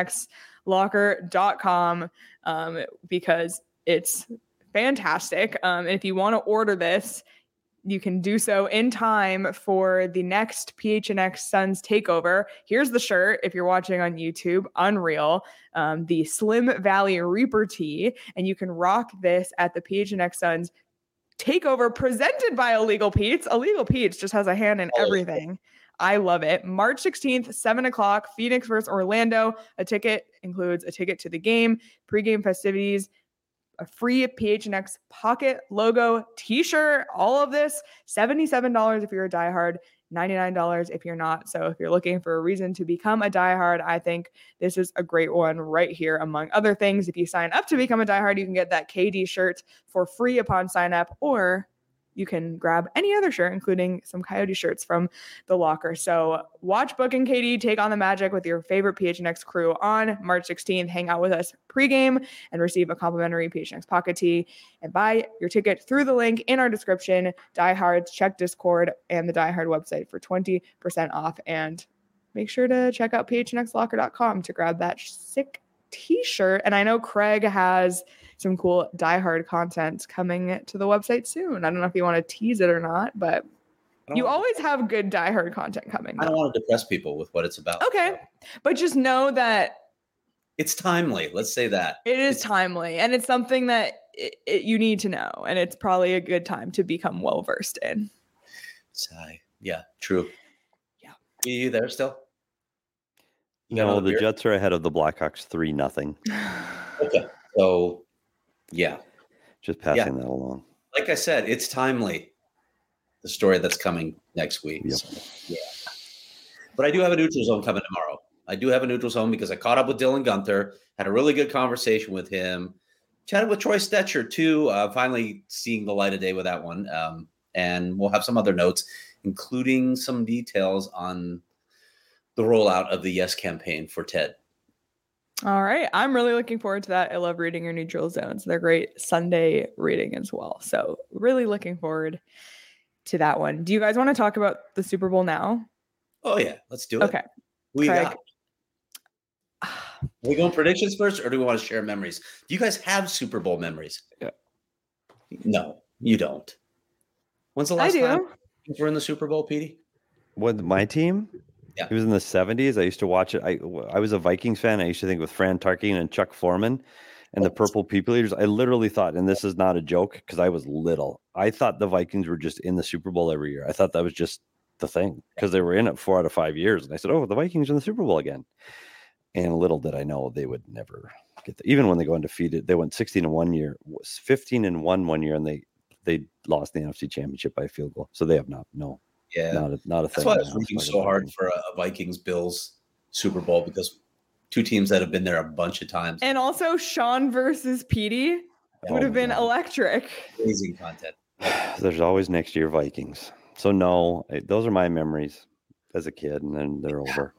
phnxlocker.com because it's fantastic. And if you want to order this, you can do so in time for the next PHNX Suns takeover. Here's the shirt if you're watching on YouTube, unreal. The Slim Valley Reaper tee, and you can rock this at the PHNX Suns takeover presented by Illegal Pete's. Illegal Pete's just has a hand in everything. I love it. March 16th, 7:00, Phoenix versus Orlando. A ticket includes a ticket to the game, pregame festivities, a free PHNX pocket logo t-shirt, all of this, $77 if you're a diehard, $99 if you're not. So if you're looking for a reason to become a diehard, I think this is a great one right here. Among other things, if you sign up to become a diehard, you can get that KD shirt for free upon sign up, or you can grab any other shirt, including some Coyote shirts from the locker. So watch Book and KD take on the Magic with your favorite PHNX crew on March 16th. Hang out with us pregame and receive a complimentary PHNX pocket tee, and buy your ticket through the link in our description. Diehards, check Discord and the Diehard website for 20% off. And make sure to check out phnxlocker.com to grab that sick t-shirt. And I know Craig has some cool diehard content coming to the website soon. I don't know if you want to tease it or not, but you always have good diehard content coming. I don't want to depress people with what it's about. Okay. But just know that It's timely. Let's say that. It is timely, and it's something that you need to know, and it's probably a good time to become well versed in. Yeah, true. Yeah. Are you there still? No, the Jets are ahead of the Blackhawks 3-0. Okay. So, yeah. Just passing that along. Like I said, it's timely. The story that's coming next week. Yep. So, yeah. But I do have a neutral zone coming tomorrow. I do have a neutral zone because I caught up with Dylan Gunther, had a really good conversation with him, chatted with Troy Stetcher too, finally seeing the light of day with that one. And we'll have some other notes, including some details on the rollout of the Yes campaign for Ted. All right. I'm really looking forward to that. I love reading your neutral zones. They're great Sunday reading as well. So really looking forward to that one. Do you guys want to talk about the Super Bowl now? Oh, yeah. Let's do it. Okay. Who you got? Are we going predictions first, or do we want to share memories? Do you guys have Super Bowl memories? Yeah. No, you don't. When's the last time you were in the Super Bowl, Petey? What, my team? Yeah. It was in the 70s. I used to watch it. I was a Vikings fan. I used to think with Fran Tarkenton and Chuck Foreman and the Purple People Eaters. I literally thought, and this is not a joke because I was little, I thought the Vikings were just in the Super Bowl every year. I thought that was just the thing because they were in it 4 out of 5 years. And I said, oh, the Vikings are in the Super Bowl again. And little did I know they would never get there. Even when they go undefeated, they went 16-1 one year, 15-1 one year, and they lost the NFC Championship by a field goal. So they have not a thing. That's why I was rooting so hard for a Vikings-Bills Super Bowl, because two teams that have been there a bunch of times. And also Sean versus Petey would have been electric. Amazing content. There's always next year Vikings. So no, those are my memories as a kid, and then they're over.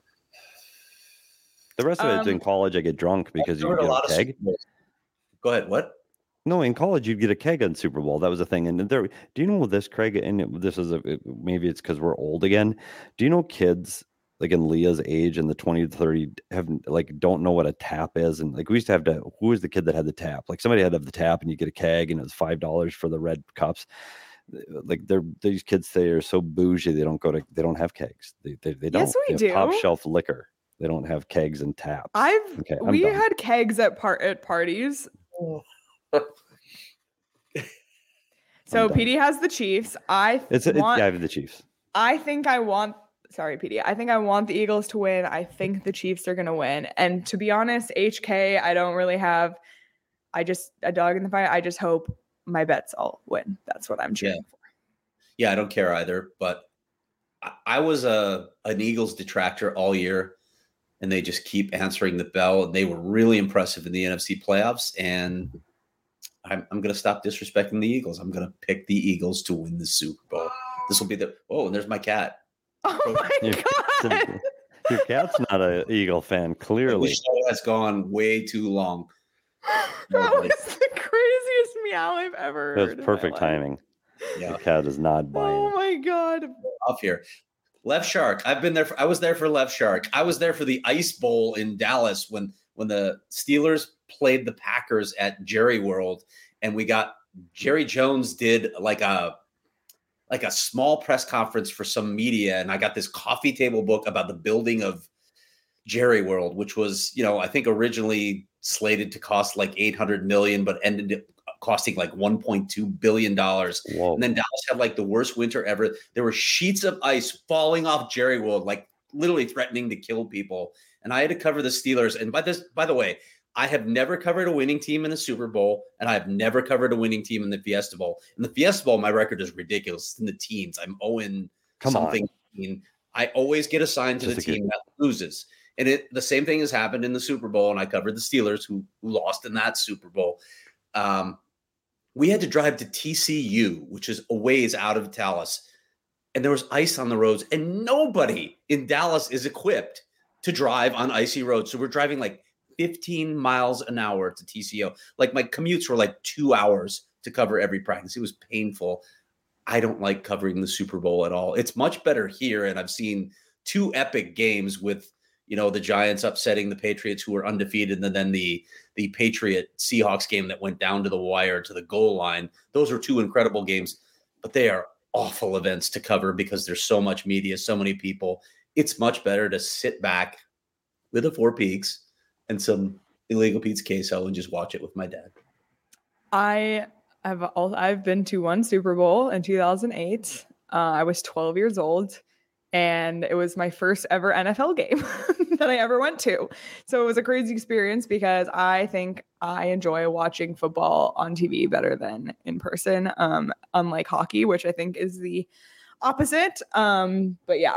The rest of it is in college. I get drunk because you get a keg. Go ahead. What? No, in college you'd get a keg on Super Bowl. That was a thing. And there, do you know this, Craig? And this is maybe it's because we're old again. Do you know kids like in Leah's age and the 20 to 30 don't know what a tap is? And like we used to have to. Who was the kid that had the tap? Like somebody had to have the tap, and you get a keg, and it was $5 for the red cups. Like these kids, they are so bougie. They don't have kegs. They don't. Yes, we do. Top shelf liquor. They don't have kegs and taps. We had kegs at parties. So PD has the Chiefs. I have the Chiefs. Sorry, PD. I think I want the Eagles to win. I think the Chiefs are going to win. And to be honest, HK, I don't really have a dog in the fight. I just hope my bets all win. That's what I'm cheering for. Yeah, I don't care either. But I was an Eagles detractor all year, and they just keep answering the bell. And they were really impressive in the NFC playoffs. And I'm going to stop disrespecting the Eagles. I'm going to pick the Eagles to win the Super Bowl. This will be and there's my cat. Oh my God. Your cat's not an Eagle fan, clearly. The show has gone way too long. That was the craziest meow I've ever heard. That was perfect timing. Yeah. The cat is not buying. Oh my God. Off here. Left Shark. I was there for Left Shark. I was there for the Ice Bowl in Dallas when the Steelers played the Packers at Jerry World, and Jerry Jones did like a small press conference for some media, and I got this coffee table book about the building of Jerry World, which was, I think originally slated to cost like $800 million, but ended up costing like $1.2 billion. Whoa. And then Dallas had like the worst winter ever. There were sheets of ice falling off Jerry World, like literally threatening to kill people. And I had to cover the Steelers. And by the way, I have never covered a winning team in the Super Bowl, and I have never covered a winning team in the Fiesta Bowl. In the Fiesta Bowl, my record is ridiculous. It's in the teens. I'm 0-something. I always get assigned to the team that loses. And the same thing has happened in the Super Bowl, and I covered the Steelers who lost in that Super Bowl. We had to drive to TCU, which is a ways out of Dallas, and there was ice on the roads, and nobody in Dallas is equipped to drive on icy roads. So we're driving like 15 miles an hour to TCU. Like my commutes were like 2 hours to cover every practice. It was painful. I don't like covering the Super Bowl at all. It's much better here. And I've seen 2 epic games with, the Giants upsetting the Patriots, who were undefeated, and then the Patriot Seahawks game that went down to the wire to the goal line. Those are 2 incredible games, but they are awful events to cover because there's so much media, so many people. It's much better to sit back with a Four Peaks and some illegal pizza queso and just watch it with my dad. I've been to one Super Bowl in 2008. I was 12 years old, and it was my first ever NFL game that I ever went to. So it was a crazy experience because I think I enjoy watching football on TV better than in person, unlike hockey, which I think is the opposite. But yeah,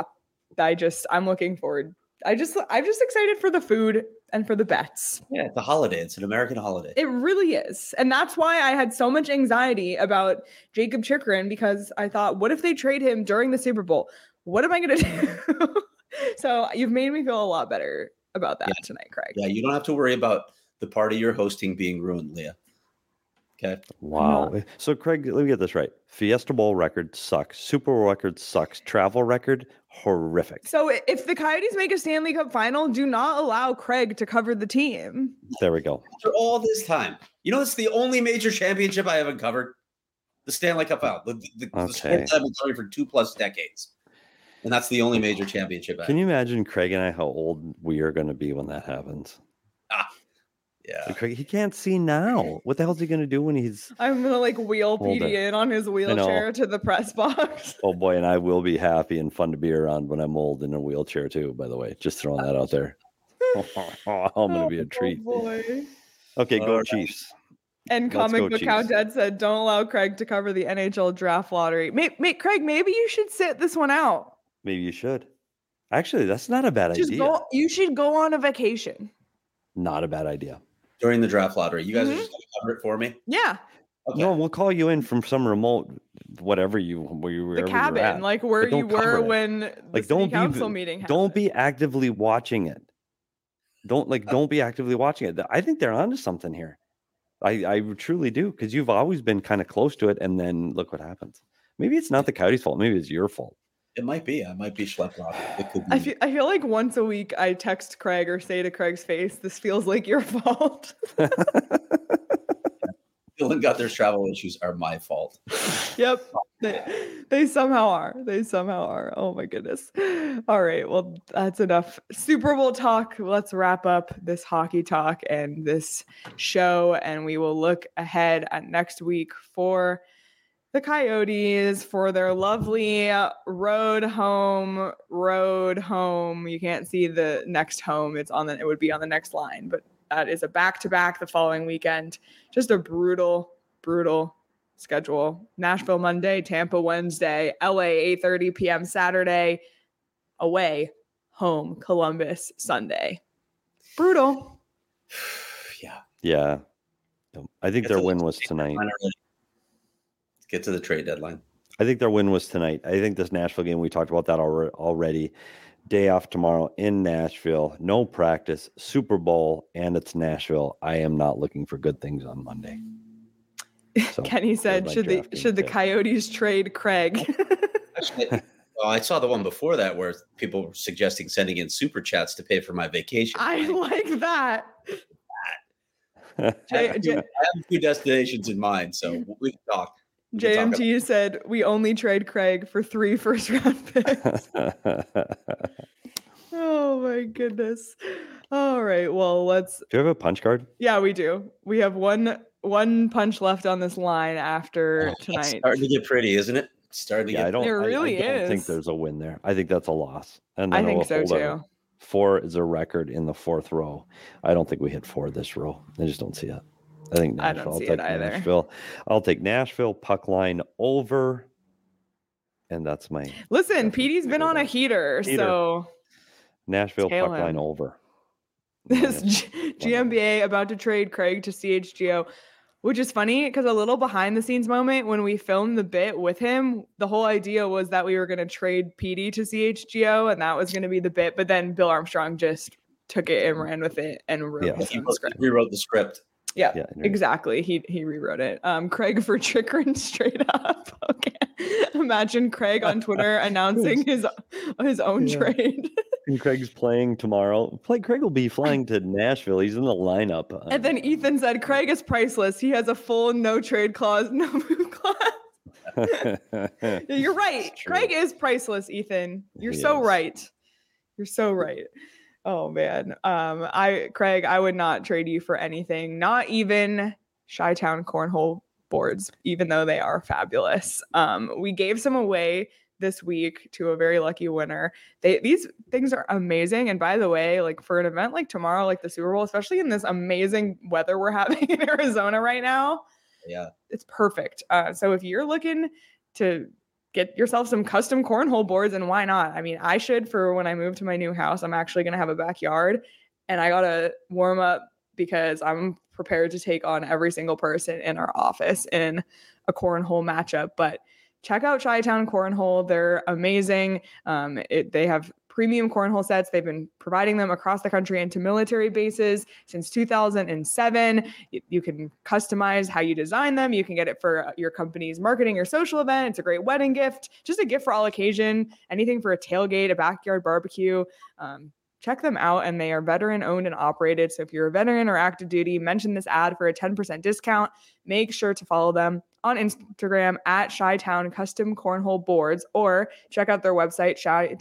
I'm looking forward. I'm just excited for the food and for the bets. Yeah, it's a holiday. It's an American holiday. It really is. And that's why I had so much anxiety about Jakob Chychrun, because I thought, what if they trade him during the Super Bowl? What am I going to do? So you've made me feel a lot better about that tonight, Craig. Yeah, you don't have to worry about the party you're hosting being ruined, Leah. Okay. Wow. So, Craig, let me get this right. Fiesta Bowl record sucks. Super Bowl record sucks. Travel record, horrific. So if the Coyotes make a Stanley Cup final, do not allow Craig to cover the team. There we go. After all this time, it's the only major championship I haven't covered. The Stanley Cup final. The sports I've been covering for 2+ decades. And that's the only major championship. Can you imagine Craig and I how old we are going to be when that happens? Yeah. So Craig, he can't see now. What the hell is he going to do when he's... I'm going to wheel Petey in on his wheelchair to the press box. Oh boy, and I will be happy and fun to be around when I'm old in a wheelchair too, by the way. Just throwing that out there. I'm going to be a treat. Oh boy. Okay, go Chiefs. And Comic Book Countdown said, don't allow Craig to cover the NHL draft lottery. Craig, maybe you should sit this one out. Maybe you should. Actually, that's not a bad idea. You should go on a vacation. Not a bad idea. During the draft lottery. You guys are just going to cover it for me? Yeah. Okay. No, we'll call you in from some remote, where you were. The cabin, like where you were when the city council meeting happened. Don't be actively watching it. Don't be actively watching it. I think they're onto something here. I truly do, because you've always been kind of close to it, and then look what happens. Maybe it's not the Coyotes' fault. Maybe it's your fault. It might be. I might be schlepped off. It could be. I feel like once a week I text Craig or say to Craig's face, "This feels like your fault." Dylan got their travel issues are my fault. Yep. They somehow are. They somehow are. Oh my goodness. All right. Well, that's enough Super Bowl talk. Let's wrap up this hockey talk and this show, and we will look ahead at next week for the Coyotes for their lovely road home. You can't see the next home. It would be on the next line, but that is a back-to-back the following weekend. Just a brutal schedule. Nashville Monday, Tampa Wednesday, LA 8:30 p.m. Saturday, away, home, Columbus Sunday. Brutal. Yeah. I think their win was tonight. Get to the trade deadline. I think their win was tonight. I think this Nashville game, we talked about that already. Day off tomorrow in Nashville. No practice. Super Bowl, and it's Nashville. I am not looking for good things on Monday. So, Kenny said, should the Coyotes trade Craig? Actually, I saw the one before that where people were suggesting sending in super chats to pay for my vacation. I like that. I have a few destinations in mind, so we can talk. JMT said, we only trade Craig for 3 first-round picks. Oh, my goodness. All right, well, let's... Do you have a punch card? Yeah, we do. We have one punch left on this line after tonight. It's starting to get pretty, isn't it? I don't think there's a win there. I think that's a loss. And I think so, too. 4 is a record in the 4th row. I don't think we hit 4 this row. I just don't see it. I think Nashville. I don't see it either. Nashville. I'll take Nashville puck line over, and that's my. Listen, Petey's been on a heater, so Nashville puck line over. This GMBA about to trade Craig to CHGO, which is funny because a little behind the scenes moment when we filmed the bit with him, the whole idea was that we were going to trade Petey to CHGO, and that was going to be the bit. But then Bill Armstrong just took it and ran with it and wrote rewrote the script. Yeah, exactly. He rewrote it. Craig for Chychrun straight up. Okay. Imagine Craig on Twitter announcing his own trade. And Craig's playing tomorrow. Craig will be flying to Nashville. He's in the lineup. And then Ethan said, Craig is priceless. He has a full no trade clause, no move clause. You're right. Craig is priceless, Ethan. You're so right. You're so right. Oh man. Craig, I would not trade you for anything, not even Chi-Town cornhole boards, even though they are fabulous. We gave some away this week to a very lucky winner. These things are amazing. And by the way, like for an event like tomorrow, like the Super Bowl, especially in this amazing weather we're having in Arizona right now, yeah, it's perfect. So if you're looking to get yourself some custom cornhole boards, and why not? I mean, I should for when I move to my new house. I'm actually going to have a backyard, and I got to warm up because I'm prepared to take on every single person in our office in a cornhole matchup. But check out Chi-Town Cornhole. They're amazing. They have premium cornhole sets. They've been providing them across the country and to military bases since 2007. You can customize how you design them. You can get it for your company's marketing or social event. It's a great wedding gift, just a gift for all occasion, anything for a tailgate, a backyard barbecue. Check them out, and they are veteran owned and operated. So if you're a veteran or active duty, mention this ad for a 10% discount. Make sure to follow them on Instagram at Chi-Town Custom Cornhole Boards, or check out their website,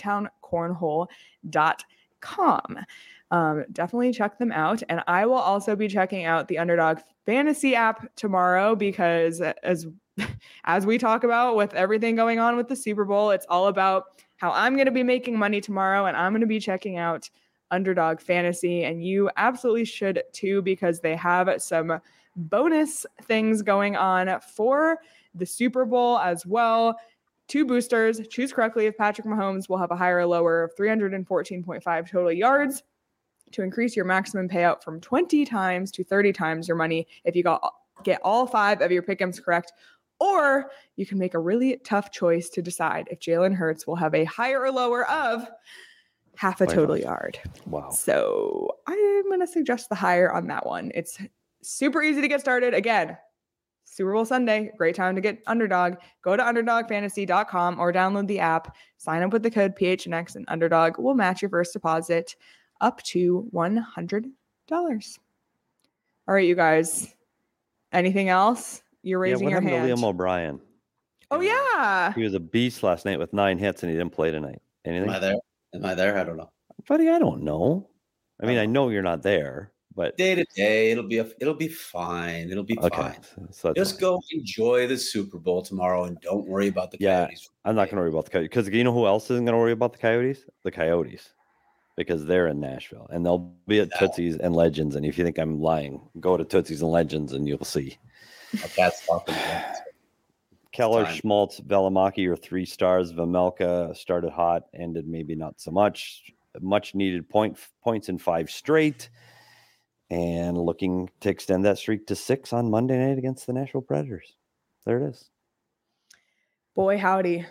chitowncornhole.com. Definitely check them out. And I will also be checking out the Underdog Fantasy app tomorrow because as we talk about with everything going on with the Super Bowl, it's all about how I'm going to be making money tomorrow, and I'm going to be checking out Underdog Fantasy, and you absolutely should too, because they have some bonus things going on for the Super Bowl as well. 2 boosters. Choose correctly if Patrick Mahomes will have a higher or lower of 314.5 total yards to increase your maximum payout from 20 times to 30 times your money if you get all 5 of your pick'ems correct. Or you can make a really tough choice to decide if Jalen Hurts will have a higher or lower of half a total yard. Wow. So I'm going to suggest the higher on that one. It's super easy to get started. Again, Super Bowl Sunday, great time to get Underdog. Go to underdogfantasy.com or download the app. Sign up with the code PHNX, and Underdog will match your first deposit up to $100. All right, you guys. Anything else? You're raising your hand. What happened to Liam O'Brien? Oh, yeah. He was a beast last night with 9 hits, and he didn't play tonight. Anything? Am I there? I don't know. Buddy, I don't know. I mean, I know you're not there, but day to day, it'll be fine. It'll be fine. So just go enjoy the Super Bowl tomorrow and don't worry about the Coyotes. I'm not going to worry about the Coyotes, because you know who else isn't going to worry about the Coyotes? The Coyotes, because they're in Nashville and they'll be at Tootsie's and Legends. And if you think I'm lying, go to Tootsie's and Legends and you'll see. That's talking. Keller, Schmaltz, Velimaki are 3 stars. Vamelka started hot, ended maybe not so much. Much needed points in 5 straight, and looking to extend that streak to 6 on Monday night against the Nashville Predators. There it is. Boy, howdy.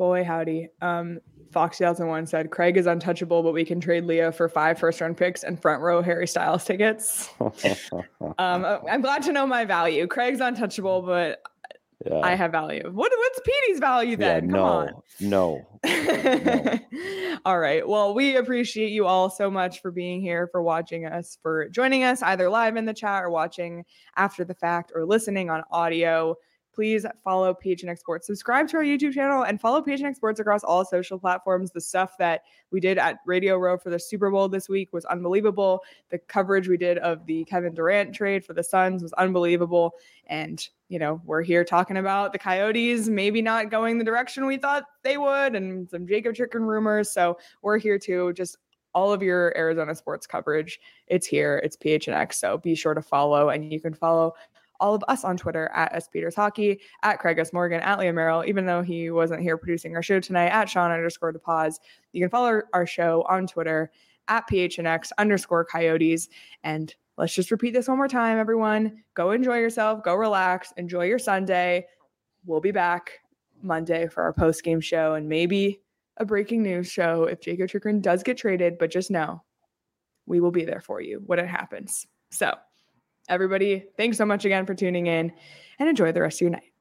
Fox 2001 said, Craig is untouchable, but we can trade Leah for 5 first-round picks and front row Harry Styles tickets. I'm glad to know my value. Craig's untouchable, but I have value. What's Petey's value then? Come on. No. All right. Well, we appreciate you all so much for being here, for watching us, for joining us either live in the chat or watching after the fact or listening on audio. Please follow PHNX Sports. Subscribe to our YouTube channel and follow PHNX Sports across all social platforms. The stuff that we did at Radio Row for the Super Bowl this week was unbelievable. The coverage we did of the Kevin Durant trade for the Suns was unbelievable. And, you know, we're here talking about the Coyotes maybe not going the direction we thought they would, and some Jacob Chicken rumors. So we're here too. Just all of your Arizona sports coverage. It's here. It's PHNX. So be sure to follow, and you can follow all of us on Twitter at SPetersHockey, at Craig S. Morgan, at Liam Merrill, even though he wasn't here producing our show tonight, at Sean_DePaz. You can follow our show on Twitter at PHNX_Coyotes. And let's just repeat this one more time, everyone. Go enjoy yourself. Go relax. Enjoy your Sunday. We'll be back Monday for our post-game show and maybe a breaking news show if Jacob Chikrin does get traded. But just know, we will be there for you when it happens. So, everybody, thanks so much again for tuning in, and enjoy the rest of your night.